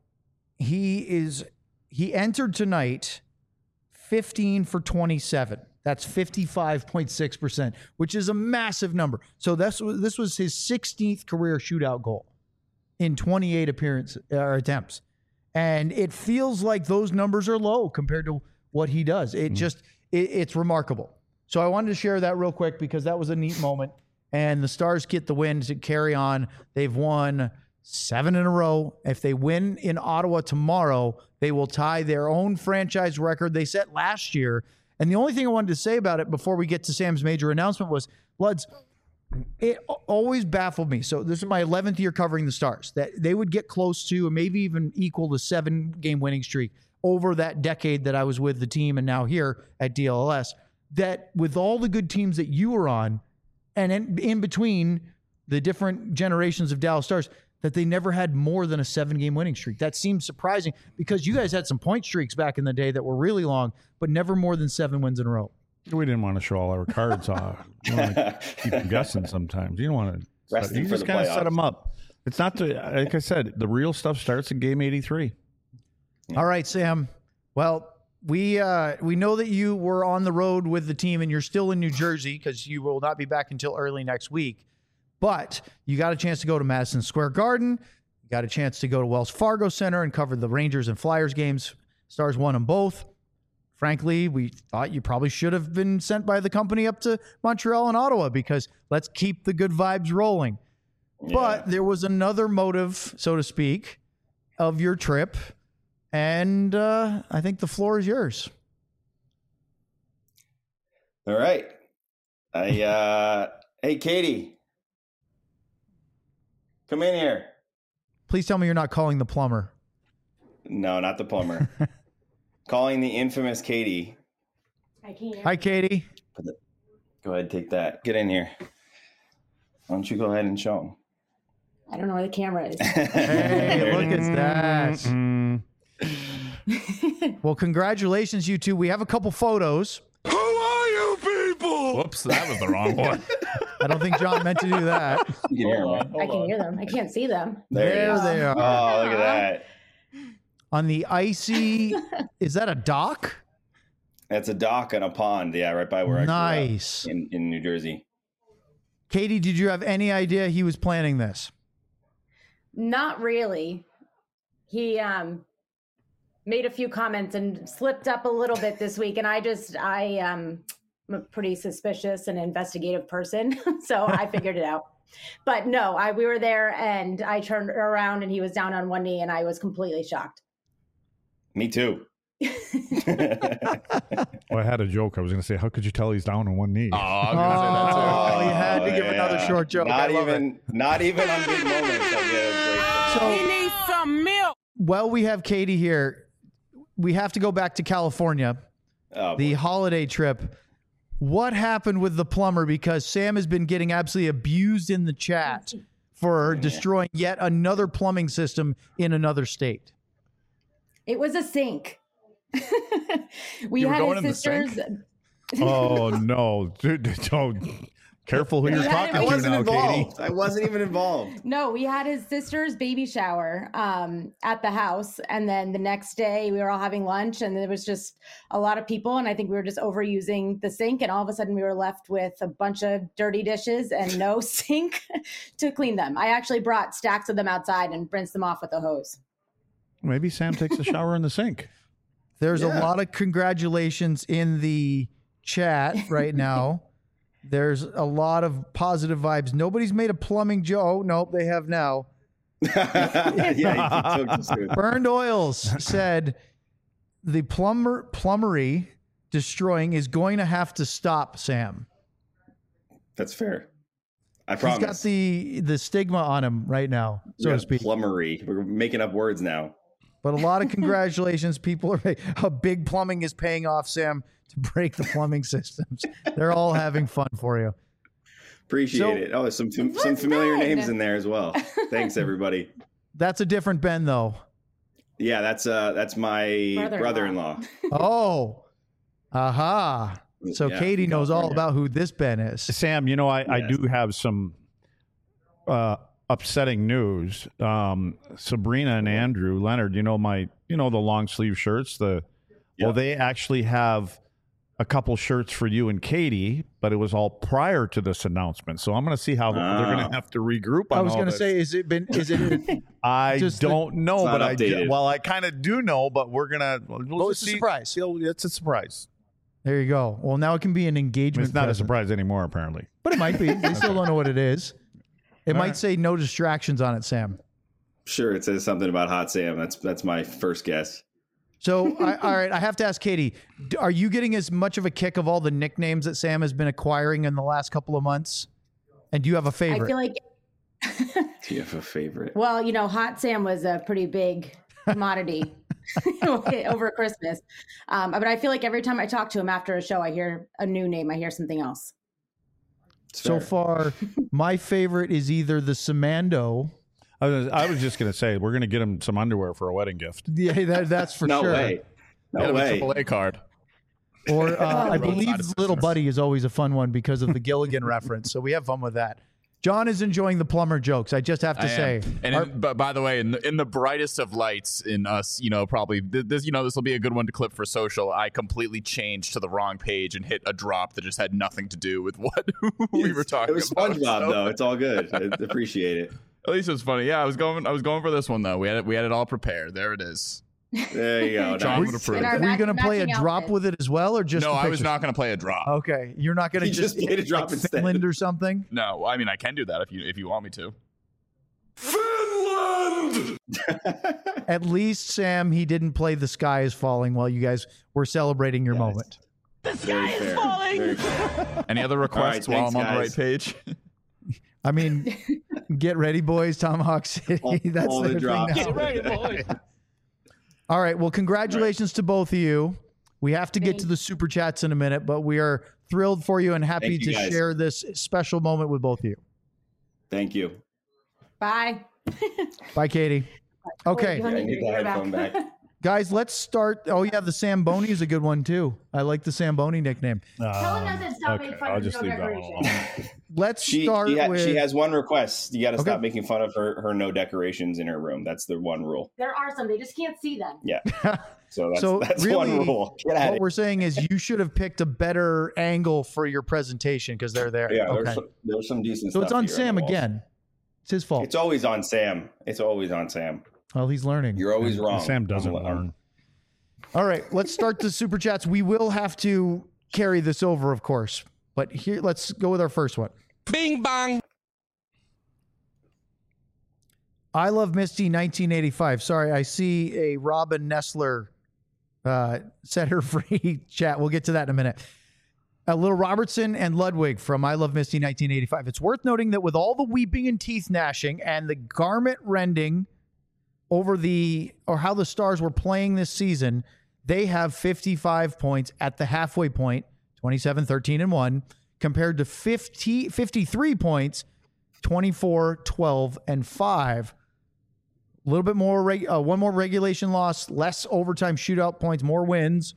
he entered tonight 15 for 27. That's 55.6%, which is a massive number. So this was his 16th career shootout goal in 28 attempts. And it feels like those numbers are low compared to what he does. It's remarkable. So I wanted to share that real quick because that was a neat moment. And the Stars get the win to carry on. They've won 7 in a row. If they win in Ottawa tomorrow, they will tie their own franchise record they set last year. And the only thing I wanted to say about it before we get to Sam's major announcement was, Luds, it always baffled me. So this is my 11th year covering the Stars, that they would get close to and maybe even equal the 7-game winning streak over that decade that I was with the team and now here at DLS. That with all the good teams that you were on, and in between the different generations of Dallas Stars, that they never had more than a 7-game winning streak. That seems surprising because you guys had some point streaks back in the day that were really long, but never more than 7 wins in a row. We didn't want to show all our cards off. You want to keep them guessing sometimes. You don't want to. You just kind of set them up. It's not like I said, the real stuff starts in game 83. All right, Sam. Well, we know that you were on the road with the team and you're still in New Jersey because you will not be back until early next week. But you got a chance to go to Madison Square Garden. You got a chance to go to Wells Fargo Center and cover the Rangers and Flyers games. Stars won them both. Frankly, we thought you probably should have been sent by the company up to Montreal and Ottawa because let's keep the good vibes rolling. Yeah. But there was another motive, so to speak, of your trip. And I think the floor is yours. All right. Hey, Katie. Come in here. Please tell me you're not calling the plumber. No, not the plumber. Calling the infamous Katie. Hi, Katie. Go ahead, take that. Get in here. Why don't you go ahead and show them? I don't know where the camera is. Hey, look at that. Well, congratulations, you two. We have a couple photos. Who are you people? Whoops, that was the wrong one. I don't think John meant to do that. You can hear them. I can hear them. I can't see them. There they are. Oh, look at that. On the icy, is that a dock? That's a dock and a pond. Yeah, right by where I grew up in New Jersey. Katie, did you have any idea he was planning this? Not really. He made a few comments and slipped up a little bit this week. And I'm a pretty suspicious and investigative person. So I figured it out. But no, we were there and I turned around and he was down on one knee and I was completely shocked. Me too. Well, I had a joke. I was going to say, how could you tell he's down on one knee? Oh, I was going to say that too. Oh, you had to give another short joke. Not even on big moments. So, need some milk. well, we have Katie here. We have to go back to California, the holiday trip. What happened with the plumber? Because Sam has been getting absolutely abused in the chat for destroying yet another plumbing system in another state. It was a sink. We You were had going in the his sisters. sink? Oh, no. Dude, don't. Careful who you're talking I to wasn't now, involved. Katie. I wasn't even involved. No, we had his sister's baby shower at the house. And then the next day we were all having lunch and there was just a lot of people. And I think we were just overusing the sink. And all of a sudden we were left with a bunch of dirty dishes and no sink to clean them. I actually brought stacks of them outside and rinsed them off with a hose. Maybe Sam takes a shower in the sink. There's a lot of congratulations in the chat right now. There's a lot of positive vibes. Nobody's made a plumbing joke. Oh, nope, they have now. Yeah, he took this dude. Burned Oils said the plumbery destroying is going to have to stop, Sam. That's fair. I promise. He's got the stigma on him right now, so to speak. Plumbery. We're making up words now. But a lot of congratulations. People are a big plumbing is paying off, Sam, to break the plumbing systems. They're all having fun for you. Appreciate it. Oh, some familiar names in there as well. Thanks, everybody. That's a different Ben, though. Yeah, that's my brother-in-law. Oh, aha. So Yeah, Katie from knows all California. about who this Ben is. Sam, you know, I Yes. do have some upsetting news. Sabrina and Andrew Leonard, the long sleeve shirts. Well, they actually have a couple shirts for you and Katie, but it was all prior to this announcement. So I'm going to see how they're going to have to regroup. I was going to say, is it? I just don't know, It's not but updated. I kind of do know, but we're going to. it's a surprise. It's a surprise. There you go. Well, now it can be an I mean, engagement. it's not a present. surprise anymore, apparently. But it might be. They still don't know what it is. It might right. say no distractions on it, Sam. Sure, it says something about Hot Sam. That's my first guess. So, all right, I have to ask Katie, are you getting as much of a kick of all the nicknames that Sam has been acquiring in the last couple of months? And do you have a favorite? I feel like, Do you have a favorite? well, Hot Sam was a pretty big commodity over Christmas. But I feel like every time I talk to him after a show, I hear a new name. I hear something else. It's So fair. far, my favorite is either the Samando. I was just going to say, we're going to get him some underwear for a wedding gift. Yeah, that's for no sure. way. Get No him a way. AAA card. Or I Roadside believe assistance. Little Buddy is always a fun one because of the Gilligan reference. So we have fun with that. John is enjoying the plumber jokes. I just have to I say. am. And but by the way, in the brightest of lights in us, probably this will be a good one to clip for social. I completely changed to the wrong page and hit a drop that just had nothing to do with what we were talking It was about. SpongeBob so- though. It's all good. I appreciate it. At least it was funny. Yeah, I was going for this one though. We had it all prepared. There it is. There you go. John Nice. would approve. In our Were you going to play a matching drop outfits. with it as well, or just No, the I was pictures? not going to play a drop. Okay, you're not going to He just played a drop instead. Finland or something. No, I mean I can do that if you want me to. At least Sam, he didn't play "The Sky Is Falling" while you guys were celebrating your moment. Very fair. Very fair. Any other requests All right, while I'm on the right thanks, page? I mean, get ready, boys. Tomahawk City. That's all their the drops. thing now. All right. Well, congratulations to both of you. We have to get to the super chats in a minute, but we are thrilled for you and happy Thank you, to guys. share this special moment with both of you. Thank you. Bye. Bye, Katie. Okay, Let me I need hear the it headphone back. guys, let's start. Oh, yeah, the Samboni is a good one, too. I like the Samboni nickname. Tell him doesn't stop making fun I'll of just no leave that one decoration. alone. Let's She start with. she has one request. You got to Okay. stop making fun of her no decorations in her room. That's the one rule. There are some. They just can't see them. Yeah. So So that's really, one rule. Get at what it. we're saying is you should have picked a better angle for your presentation because they're there. Yeah, Okay. there's some decent So stuff. it's on here Sam the walls. again. It's his fault. It's always on Sam. It's always on Sam. Well, he's learning. You're always wrong. Sam doesn't I'm- learn. All right, let's start the super chats. We will have to carry this over, of course. But here, let's go with our first one. Bing bong. I love Misty 1985. Sorry, I see a Robin Nestler set her free chat. We'll get to that in a minute. A little Robertson and Ludwig from I Love Misty 1985. It's worth noting that with all the weeping and teeth gnashing and the garment rending over how the Stars were playing this season, they have 55 points at the halfway point, 27, 13, and 1, compared to 53 points, 24, 12, and 5. A little bit more, one more regulation loss, less overtime shootout points, more wins.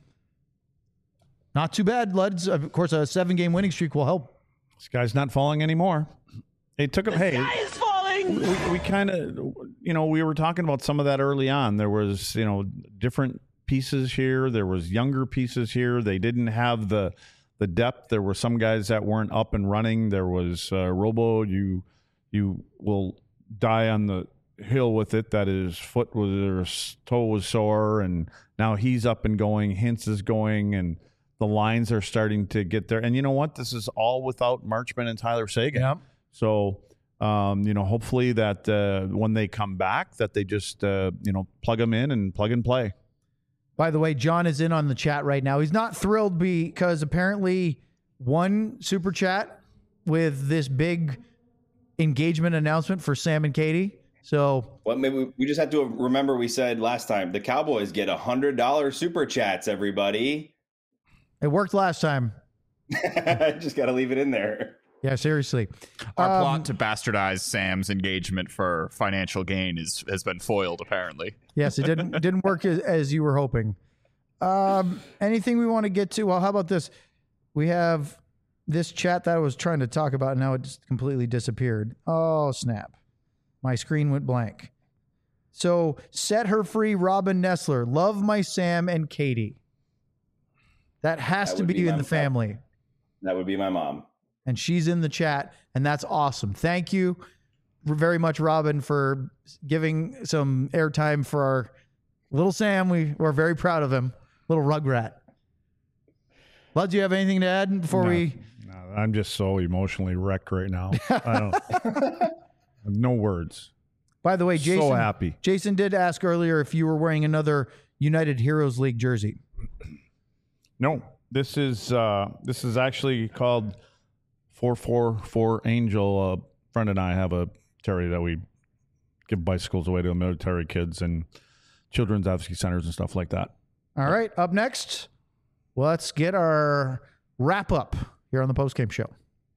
Not too bad, Luds. Of course, a 7-game winning streak will help. This guy's not falling anymore. It took him. Hey, Guy is falling. we kind of, we were talking about some of that early on. There was, different pieces here. There was younger pieces here. They didn't have the depth. There were some guys that weren't up and running. There was Robo. You will die on the hill with it that his foot was or his toe was sore, and now he's up and going. Hintz is going, and the lines are starting to get there. And you know what? This is all without Marchman and Tyler Seguin. Yep. So, hopefully that when they come back, that they just, plug them in and plug and play. By the way, John is in on the chat right now. He's not thrilled because apparently one super chat with this big engagement announcement for Sam and Katie. So, well, maybe we just have to remember we said last time the Cowboys get $100 super chats, everybody. It worked last time. Just got to leave it in there. Yeah, seriously. Our plot to bastardize Sam's engagement for financial gain has been foiled, apparently. Yes, it didn't work as you were hoping. Anything we want to get to? Well, how about this? We have this chat that I was trying to talk about. Now it just completely disappeared. Oh, snap. My screen went blank. So, set her free, Robin Nestler. Love my Sam and Katie. That has to be in the family. That would be my mom. And she's in the chat, and that's awesome. Thank you very much, Robin, for giving some airtime for our little Sam. We're very proud of him. Little rugrat. Lud, do you have anything to add before we... No, I'm just so emotionally wrecked right now. I have no words. By the way, Jason, so happy. Jason did ask earlier if you were wearing another United Heroes League jersey. No, this is actually called 444 Angel. A friend and I have a charity that we give bicycles away to the military kids and children's advocacy centers and stuff like that. All right, up next, let's get our wrap up here on the postgame show.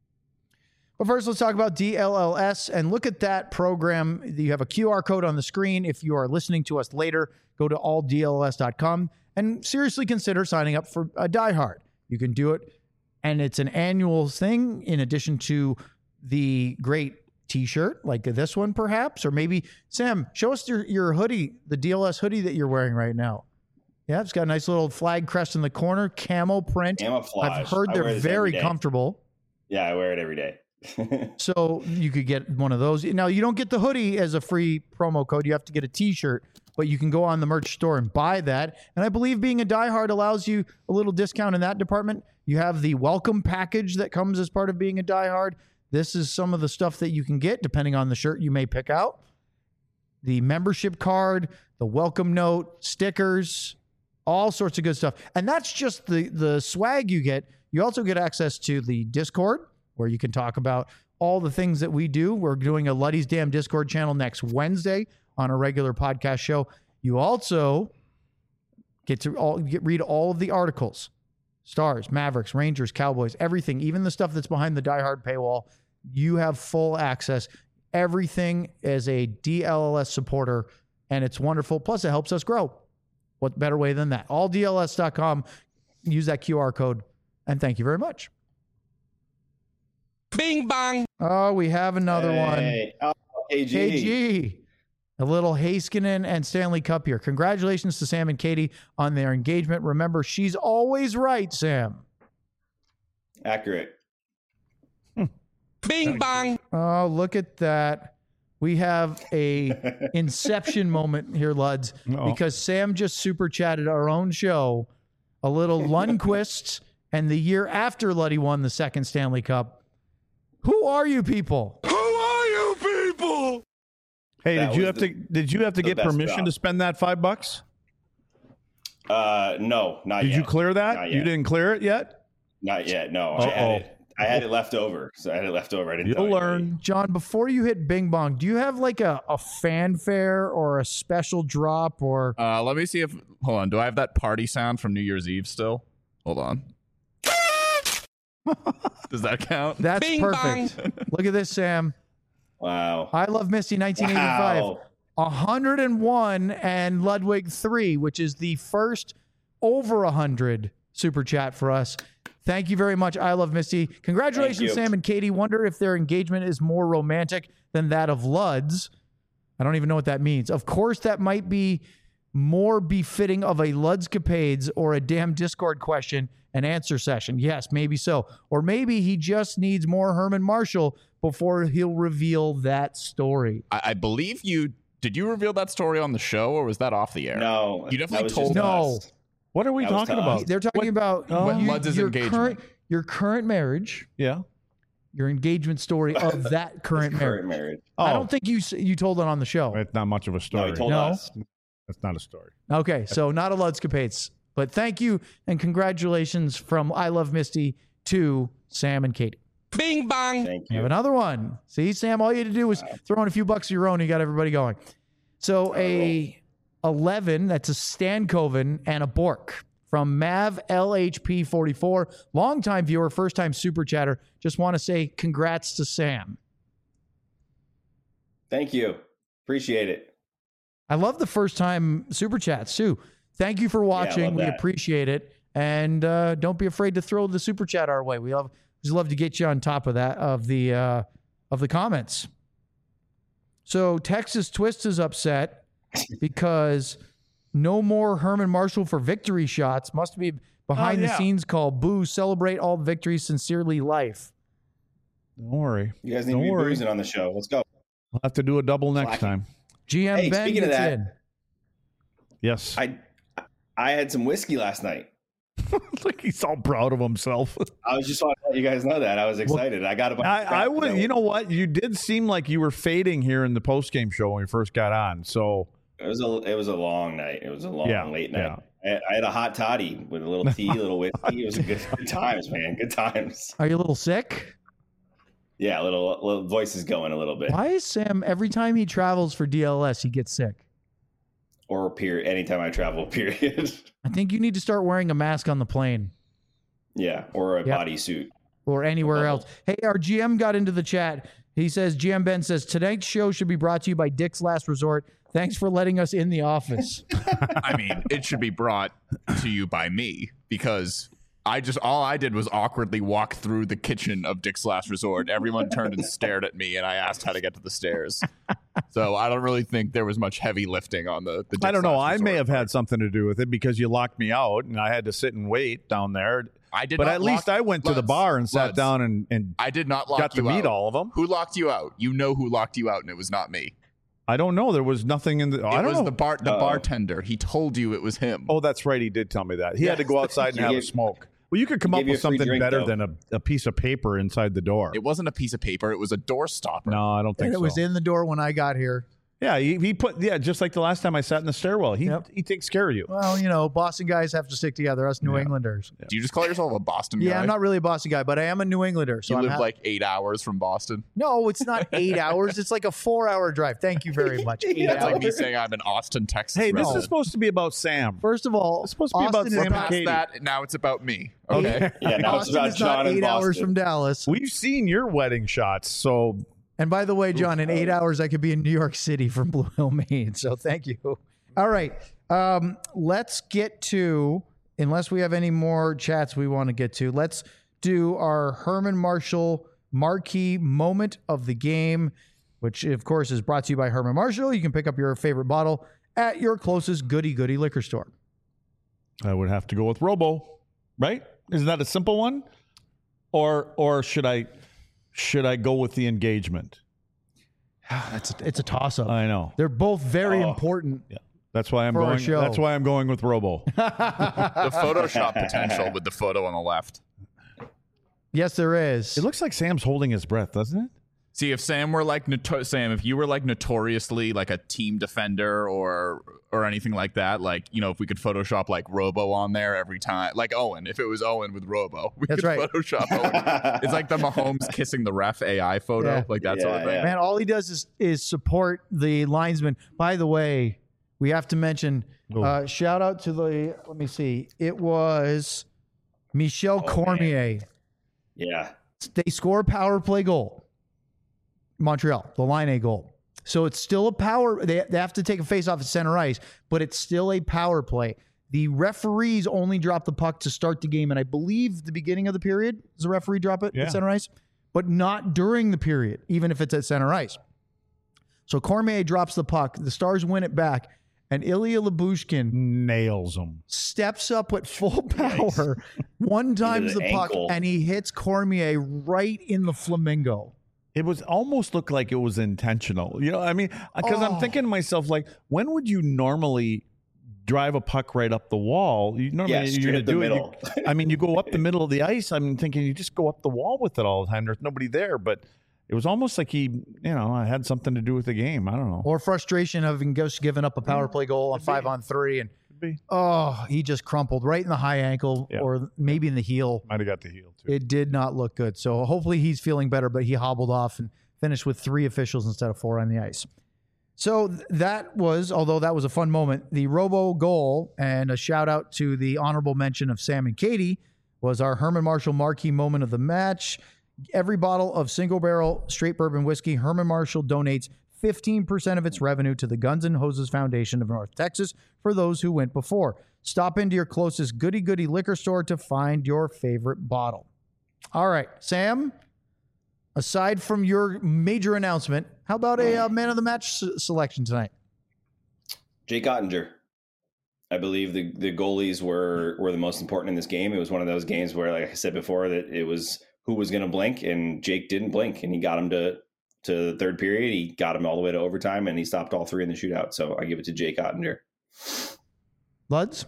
But first, let's talk about DLLS and look at that program. You have a QR code on the screen. If you are listening to us later, go to alldlls.com and seriously consider signing up for a Die Hard. You can do it, and it's an annual thing in addition to the great T-shirt like this one, perhaps. Or maybe, Sam, show us your hoodie, the DLS hoodie that you're wearing right now. Yeah, it's got a nice little flag crest in the corner, camo print. Camouflage. I've heard they're very comfortable. Yeah, I wear it every day. So you could get one of those. Now, you don't get the hoodie as a free promo code. You have to get a T-shirt, but you can go on the merch store and buy that. And I believe being a diehard allows you a little discount in that department. You have the welcome package that comes as part of being a diehard. This is some of the stuff that you can get depending on the shirt you may pick out. The membership card, the welcome note, stickers, all sorts of good stuff. And that's just the swag you get. You also get access to the Discord, where you can talk about all the things that we do. We're doing a Luddy's Damn Discord channel next Wednesday on a regular podcast show. You also get to read all of the articles. Stars, Mavericks, Rangers, Cowboys, everything, even the stuff that's behind the Die Hard paywall. You have full access. Everything as a DLLS supporter, and it's wonderful. Plus, it helps us grow. What better way than that? Alldls.com. Use that QR code, and thank you very much. Bing bong. Oh, we have another one. Oh, KG. A little Heiskanen and Stanley Cup here. Congratulations to Sam and Katie on their engagement. Remember, she's always right, Sam. Accurate. Bing bong. Oh, look at that. we have a inception moment here, Luds, because Sam just super chatted our own show, a little Lundqvist, and the year after Luddy won the second Stanley Cup. Who are you people? Hey, That did you have to get best permission job. to spend that $5? No, not Did yet. you clear that? Not You yet. didn't clear it yet? Not yet. No, Uh-oh. I had it left over. So I had it left over. I didn't. tell You'll anybody. learn. John, before you hit Bing Bong, do you have like a fanfare or a special drop or Let me see if. Hold on. Do I have that party sound from New Year's Eve still? Hold on. Does that count? that's Bing perfect. Look at this, Sam. Wow. I Love Misty 1985. Wow. 101 and Ludwig 3, which is the first over 100 super chat for us. Thank you very much. I Love Misty. Thank Congratulations, you. Sam and Katie. Wonder if their engagement is more romantic than that of Lud's. I don't even know what that means. Of course, that might be more befitting of a Ludscapades or a damn Discord question and answer session. Yes, maybe so. Or maybe he just needs more Herman Marshall before he'll reveal that story. I believe you. Did you reveal that story on the show, or was that off the air? No, You definitely that was told just No. us. What are we That was talking to about? us. They're talking about Lud's your engagement. your current marriage, Yeah. your engagement story of that current marriage. Current marriage. I don't think you told it on the show. It's not much of a No, story. he told No. us. That's not a story. Okay, so not a Ludscapades, but thank you and congratulations from I Love Misty to Sam and Katie. Bing bang. Thank You have you. another one. See, Sam, all you had to do was throw in a few bucks of your own. You got everybody going. So a 11, that's a Stankoven and a Bork from Mav LHP 44, longtime viewer, first time super chatter. Just want to say congrats to Sam. Thank you. Appreciate it. I love the first time super chats too. Thank you for watching. love We that. appreciate it. And don't be afraid to throw the super chat our way. We just love to get you on top of that, of the comments. So Texas Twist is upset because no more Herman Marshall for victory shots. Must be behind the scenes call. Boo, celebrate all victories. Sincerely, Life. Don't worry. You guys need Don't to be worry. boozing on the show. Let's go. We'll have to do a double next Slack. time. GM Hey, Ben speaking of gets that- in. Yes. I had some whiskey last night. Look, he's all proud of himself. I was just want to let you guys know that. I was excited. I got a bunch of I crap would. that- You know what? You did seem like you were fading here in the post game show when we first got on. So It was a long night. It was a long, Yeah, late night. I had a hot toddy with a little tea, a little whiskey. It was good times, man. Good times. Are you a little sick? Yeah, little voice is going a little bit. Why is Sam, every time he travels for DLS, he gets sick? Or period. Anytime I travel, period. I think you need to start wearing a mask on the plane Yeah, or a Yep. bodysuit. or anywhere Bubble. else. Hey, our GM got into the chat. He says, GM Ben says, tonight's show should be brought to you by Dick's Last Resort. Thanks for letting us in the office. I mean, it should be brought to you by me because all I did was awkwardly walk through the kitchen of Dick's Last Resort. Everyone turned and stared at me, and I asked how to get to the stairs. So I don't really think there was much heavy lifting on the Dick's I don't know. Last I may Resort have part. had something to do with it because you locked me out and I had to sit and wait down there. I did, But not at least I went to the Luds, bar and sat Luds, down and I did not lock got to you meet out. all of them. Who locked you out? You know who locked you out, and it was not me. I don't know. There was nothing in the. I It don't was know. the Uh-oh. bartender. He told you it was him. Oh, that's right. He did tell me that. He had to go outside and He have a gave- smoke. Well, you could come he up gave you with a free something drink, better though. than a piece of paper inside the door. It wasn't a piece of paper. It was a door stopper. No, I don't think And it so. was in the door when I got here. Yeah, he put just like the last time I sat in the stairwell. He Yep. he takes care of you. Well, you know, Boston guys have to stick together, us New Yeah. Englanders. Do you just call yourself a Boston guy? Yeah, I'm not really a Boston guy, but I am a New Englander. So You I'm live ha- like 8 hours from Boston. No, it's not 8 hours. It's like a 4-hour drive. Thank you very much. 8 That's hours. like me saying I'm in Austin, Texas. Hey, this right? is supposed to be about Sam. First of all, It's supposed to be about Austin is Sam and not- Past Katie. that, now it's about me. Okay. Yeah, now it's Austin about is John not and 8 hours Boston. from Dallas. We've seen your wedding shots, so And by the way, John, in 8 hours, I could be in New York City from Blue Hill, Maine. So thank you. All right. Let's get to, unless we have any more chats we want to get to, let's do our Herman Marshall marquee moment of the game, which, of course, is brought to you by Herman Marshall. You can pick up your favorite bottle at your closest goody liquor store. I would have to go with Robo, right? Isn't that a simple one? Or should I go with the engagement? It's a toss up. I know. They're both very important. Yeah. That's why I'm For our going. show. That's why I'm going with Robo. The Photoshop potential with the photo on the left. Yes, there is. It looks like Sam's holding his breath, doesn't it? See, if Sam were like Sam, if you were like notoriously like a team defender or anything like that, like, you know, if we could Photoshop like Robo on there every time, like Owen, if it was Owen with Robo, we That's could right. Photoshop Owen. It's like the Mahomes kissing the ref AI photo, Yeah. like that sort of Yeah, thing. yeah. Man, all he does is support the linesman. By the way, we have to mention shout out to the. Let me see. It was Michel Cormier. Yeah. They score a power play goal. Montreal, the line A goal. So it's still a power. They have to take a face off at center ice, but it's still a power play. The referees only drop the puck to start the game, and I believe the beginning of the period does the referee drop it at center ice, but not during the period, even if it's at center ice. So Cormier drops the puck. The Stars win it back, and Ilya Lyubushkin Nails him. steps up at full power, one times the the puck, ankle. and he hits Cormier right in the flamingo. It was almost looked like it was intentional. You know, I mean, because I'm thinking to myself, like, when would you normally drive a puck right up the wall? You normally straight you're going up to the do middle. it. I mean, you go up the middle of the ice. I'm thinking you just go up the wall with it all the time. There's nobody there, but it was almost like he, you know, had something to do with the game. I don't know. Or frustration of having just given up a power play goal on 5-on-3, and be. he just crumpled right in the high ankle or maybe in the heel. Might have got the heel too. It did not look good. So hopefully he's feeling better, but he hobbled off and finished with 3 officials instead of 4 on the ice. So that was, although that was a fun moment, the Robo goal, and a shout out to the honorable mention of Sam and Katie, was our Herman Marshall marquee moment of the match. Every bottle of single barrel straight bourbon whiskey, Herman Marshall donates 15% of its revenue to the Guns and Hoses Foundation of North Texas for those who went before. Stop into your closest goody-goody liquor store to find your favorite bottle. All right, Sam, aside from your major announcement, how about a man of the match selection tonight? Jake Ottinger. I believe the goalies were the most important in this game. It was one of those games where, like I said before, that it was who was going to blink, and Jake didn't blink, and he got him to the third period. He got him all the way to overtime, and he stopped all 3 in the shootout. So I give it to Jake Ottinger. Luds?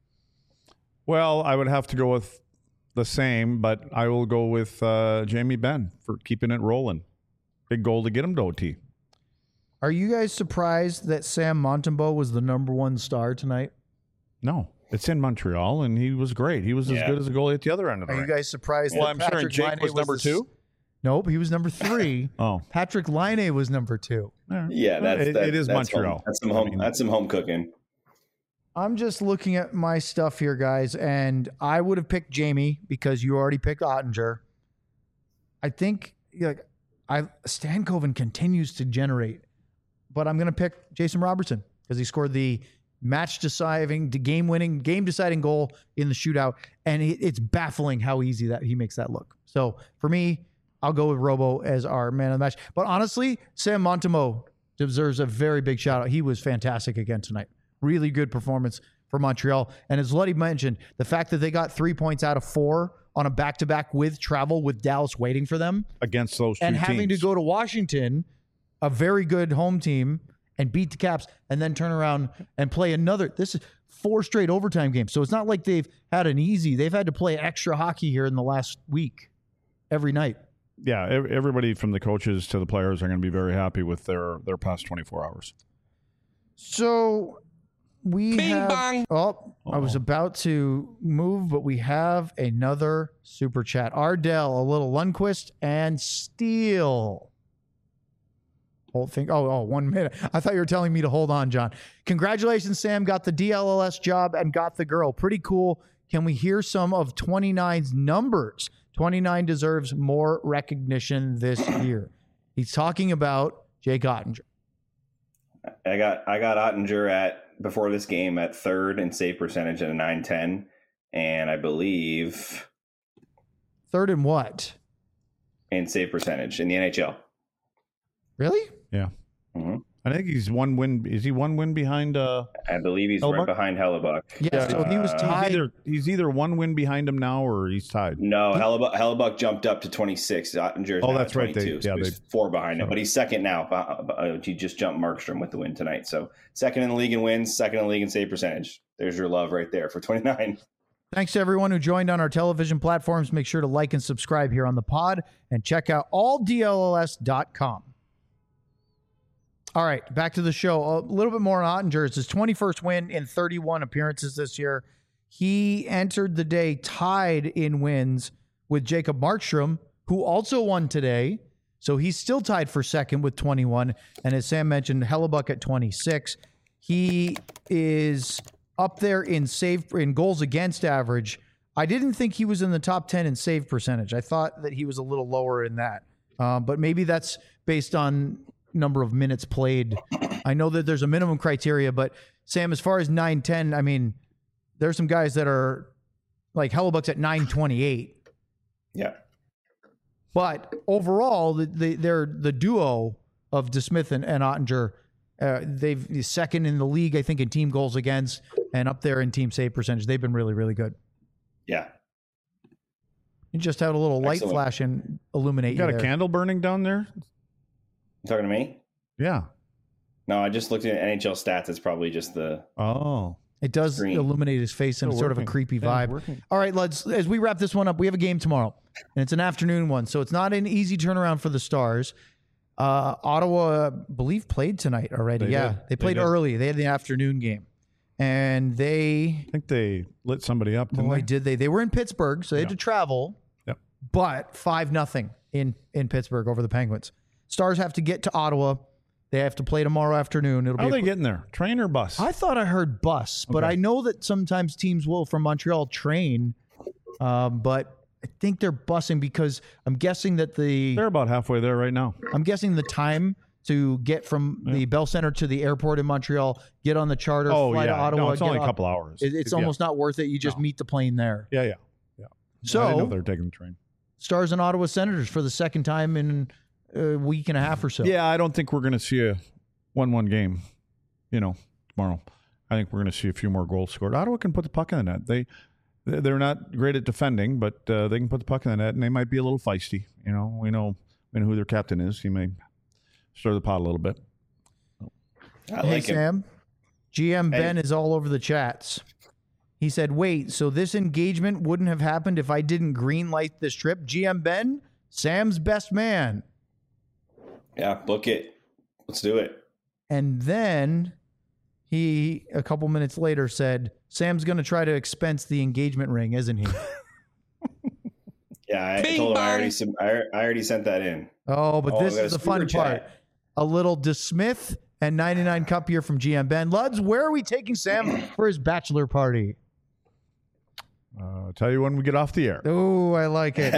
Well, I would have to go with the same, but I will go with Jamie Benn for keeping it rolling. Big goal to get him to OT. Are you guys surprised that Sam Montembeault was the number 1 star tonight? No, it's in Montreal, and he was great. He was as good as a goalie at the other end of the Are you rink. guys surprised Well, that I'm sure Patrick Jake Laine was number the 2? Nope, he was number 3. Oh, Patrick Laine was number 2. Yeah, it is that's Montreal. Home. That's some home. That's some home cooking. I'm just looking at my stuff here, guys, and I would have picked Jamie because you already picked Ottinger. I think Stankoven continues to generate, but I'm going to pick Jason Robertson because he scored the match-deciding, game-deciding goal in the shootout, and it's baffling how easy that he makes that look. So for me, I'll go with Robo as our man of the match. But honestly, Sam Montembeault deserves a very big shout-out. He was fantastic again tonight. Really good performance for Montreal. And as Luddy mentioned, the fact that they got 3 points out of 4 on a back-to-back with travel with Dallas waiting for them against those two and having teams. to go to Washington, a very good home team, and beat the Caps and then turn around and play another. This is 4 straight overtime games. So it's not like they've had an easy. They've had to play extra hockey here in the last week every night. Yeah, everybody from the coaches to the players are going to be very happy with their past 24 hours. So we Bing have. bong. Oh, I was about to move, but we have another super chat. Ardell, a little Lundqvist, and Steele. Whole thing. Oh, 1 minute. I thought you were telling me to hold on, John. Congratulations, Sam. Got the DLLS job and got the girl. Pretty cool. Can we hear some of 29's numbers? 29 deserves more recognition this year. He's talking about Jake Ottinger. I got Ottinger before this game at 3rd in save percentage at a 910, and I believe 3rd in what? in save percentage in the NHL. Really? Yeah. Mm-hmm. I think he's one win. Is he one win behind? I believe he's Hellebuck? right behind Hellebuck. Yeah, so he was tied. He's either one win behind him now, or he's tied. No, Hellebuck jumped up to 26. Ottinger's now that's at right. 22, so he's 4 behind him, but he's second now. He just jumped Markstrom with the win tonight. So second in the league in wins, second in the league in save percentage. There's your love right there for 29. Thanks to everyone who joined on our television platforms. Make sure to like and subscribe here on the pod and check out alldlls.com. All right, back to the show. A little bit more on Ottinger. It's his 21st win in 31 appearances this year. He entered the day tied in wins with Jacob Markstrom, who also won today. So he's still tied for second with 21. And as Sam mentioned, Hellebuck at 26. He is up there in goals against average. I didn't think he was in the top 10 in save percentage. I thought that he was a little lower in that. But maybe that's based on number of minutes played. I know that there's a minimum criteria, but Sam, as far as 9-10, I mean, there's some guys that are like Hellebuck's at 9.28. Yeah. But overall, they're the duo of DeSmith and Ottinger. They've second in the league, I think, in team goals against and up there in team save percentage. They've been really, really good. Yeah. You just had a little light Excellent. flash and illuminate You got you a there. candle burning down there? You talking to me? Yeah. No, I just looked at NHL stats. It's probably just the Oh. It does Screen. illuminate his face in Still sort of a working. creepy Yeah, vibe. it's working. All right, as we wrap this one up, we have a game tomorrow, and it's an afternoon one, so it's not an easy turnaround for the Stars. Ottawa, I believe, played tonight already. They did. They played They did. early. They had the afternoon game, and I think they lit somebody up, didn't boy, they? did they? They were in Pittsburgh, so they had to travel. Yep. But 5-0 in Pittsburgh over the Penguins. Stars have to get to Ottawa. They have to play tomorrow afternoon. It'll How are be they getting there? Train or bus? I thought I heard bus, but Okay. I know that sometimes teams will from Montreal train. But I think they're busing because I'm guessing that They're about halfway there right now. I'm guessing the time to get from the Bell Center to the airport in Montreal, get on the charter, fly to Ottawa. No, it's get only a on- couple hours. It's almost not worth it. You just meet the plane there. Yeah. I didn't know So they were taking the train. Stars and Ottawa Senators for the second time in a week and a half or so. Yeah, I don't think we're going to see a 1-1 game, tomorrow. I think we're going to see a few more goals scored. Ottawa can put the puck in the net. They're not great at defending, but they can put the puck in the net, and they might be a little feisty. We know who their captain is. He may stir the pot a little bit. I Hey, like him. Sam. GM Hey. Ben is all over the chats. He said, wait, so this engagement wouldn't have happened if I didn't greenlight this trip? GM Ben, Sam's best man. Yeah, book it. Let's do it. And then he, a couple minutes later, said, Sam's going to try to expense the engagement ring, isn't he? Yeah, I Bing told him bong. I already sent that in. Oh, but Oh, this we got is a the fun super part. chat. A little DeSmith and 99 Cup here from GM Ben. Luds, where are we taking Sam for his bachelor party? I'll tell you when we get off the air. Oh, I like it.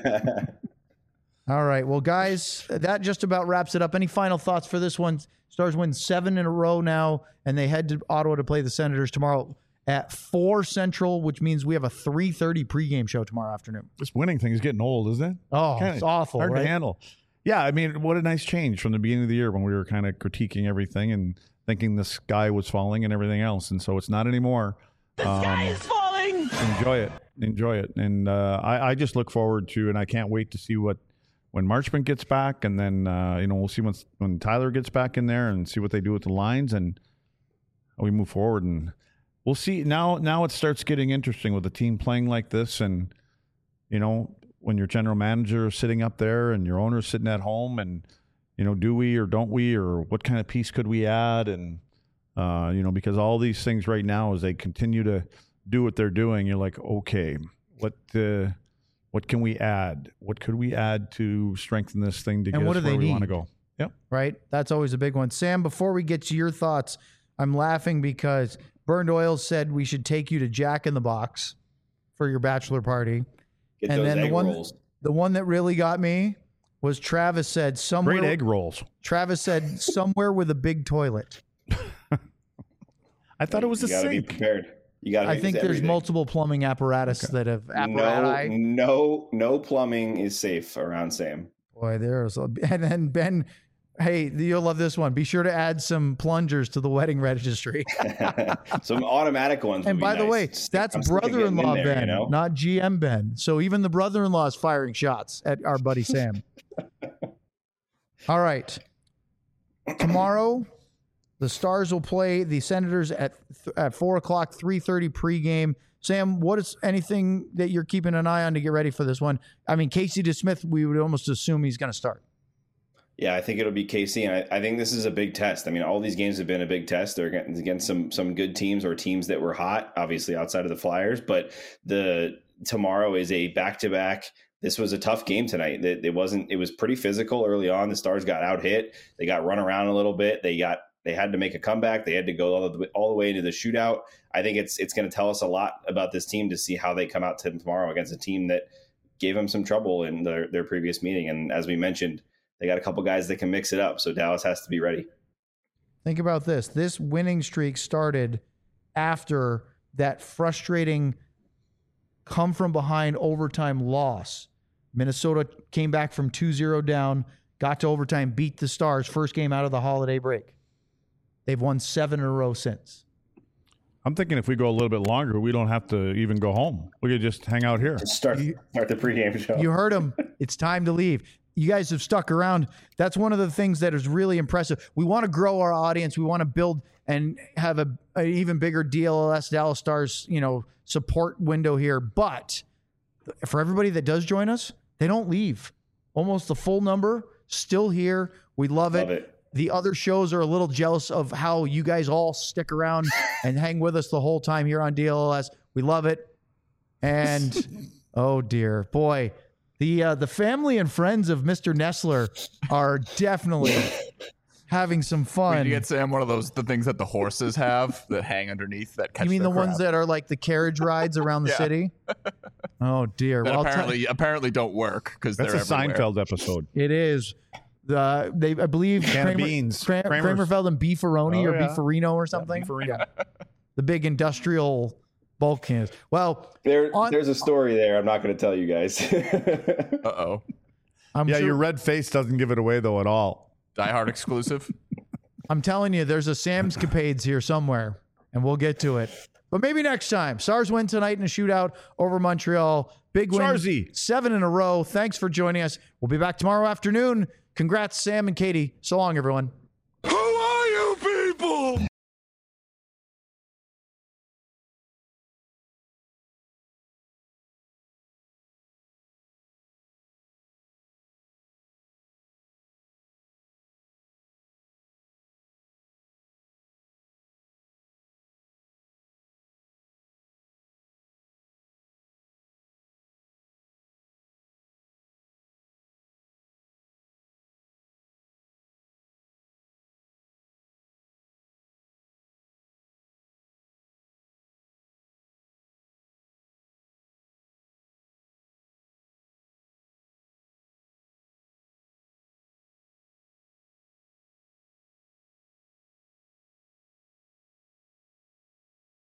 All right. Well, guys, that just about wraps it up. Any final thoughts for this one? Stars win 7 in a row now, and they head to Ottawa to play the Senators tomorrow at 4 Central, which means we have a 3:30 pregame show tomorrow afternoon. This winning thing is getting old, isn't it? Oh, Kinda it's awful, hard right? to handle. Yeah, I mean, what a nice change from the beginning of the year when we were kind of critiquing everything and thinking the sky was falling and everything else. And so it's not anymore. The sky is falling. Enjoy it. And I just look forward to, and I can't wait to see when Marchment gets back, and then we'll see when Tyler gets back in there and see what they do with the lines, and we move forward. And we'll see. Now it starts getting interesting with the team playing like this, and when your general manager is sitting up there and your owner is sitting at home, and do we or don't we, or what kind of piece could we add, and because all these things right now, as they continue to do what they're doing, you're like, okay, what can we add? What could we add to strengthen this thing to And get what us do they where we want to need? go? Yep. Right? That's always a big one. Sam, before we get to your thoughts, I'm laughing because Burned Oil said we should take you to Jack in the Box for your bachelor party. Get And those then egg the one, rolls. the one that really got me was Travis said somewhere. Great egg rolls. Travis said somewhere with a big toilet. I thought it was a You gotta be sink. prepared. You got to. I think there's everything. multiple plumbing apparatus that have apparatus. No plumbing is safe around Sam. Boy, there's and then Ben Hey, you'll love this one. Be sure to add some plungers to the wedding registry. Some automatic ones. And would be by the nice. way, Just- that's I'm sick of getting in brother-in-law there, Ben, you know? not GM Ben. So even the brother-in-law is firing shots at our buddy Sam. All right. Tomorrow, the Stars will play the Senators at 4 o'clock, 3:30 pregame. Sam, what is anything that you're keeping an eye on to get ready for this one? I mean, Casey DeSmith, we would almost assume he's going to start. Yeah, I think it'll be KC, and I think this is a big test. I mean, all these games have been a big test. They're against some good teams or teams that were hot, obviously outside of the Flyers. But tomorrow is a back-to-back. This was a tough game tonight. It was pretty physical early on. The Stars got out hit. They got run around a little bit. They had to make a comeback. They had to go all the way into the shootout. I think it's going to tell us a lot about this team to see how they come out tomorrow against a team that gave them some trouble in their previous meeting. And as we mentioned, they got a couple guys that can mix it up. So Dallas has to be ready. Think about this. This winning streak started after that frustrating come from behind overtime loss. Minnesota came back from 2-0 down, got to overtime, beat the Stars, first game out of the holiday break. They've won 7 in a row since. I'm thinking if we go a little bit longer, we don't have to even go home. We could just hang out here. Start the pregame show. You heard him. It's time to leave. You guys have stuck around. That's one of the things that is really impressive. We want to grow our audience. We want to build and have an even bigger DLS Dallas Stars, support window here. But for everybody that does join us, they don't leave. Almost the full number still here. We love it. The other shows are a little jealous of how you guys all stick around and hang with us the whole time here on DLS. We love it. And oh dear, boy, the family and friends of Mr. Nestler are definitely having some fun. Did you get Sam one of the things that the horses have that hang underneath that catch? You mean their the ones crab? that are like the carriage rides around the city? Oh dear. That Well, apparently don't work because That's they're a everywhere. Seinfeld episode. it is. I believe Can of Kramer, beans. Kramerfeld and Beefaroni Oh, or yeah. Beefarino or something. Yeah. The big industrial bulk cans. Well, There's a story there. I'm not going to tell you guys. Uh-oh. I'm Yeah, sure, your red face doesn't give it away though at all. Die Hard exclusive. I'm telling you, there's a Sam's Capades here somewhere, and we'll get to it. But maybe next time. Stars win tonight in a shootout over Montreal. Big win. Starsy. 7 in a row. Thanks for joining us. We'll be back tomorrow afternoon. Congrats, Sam and Katie. So long, everyone.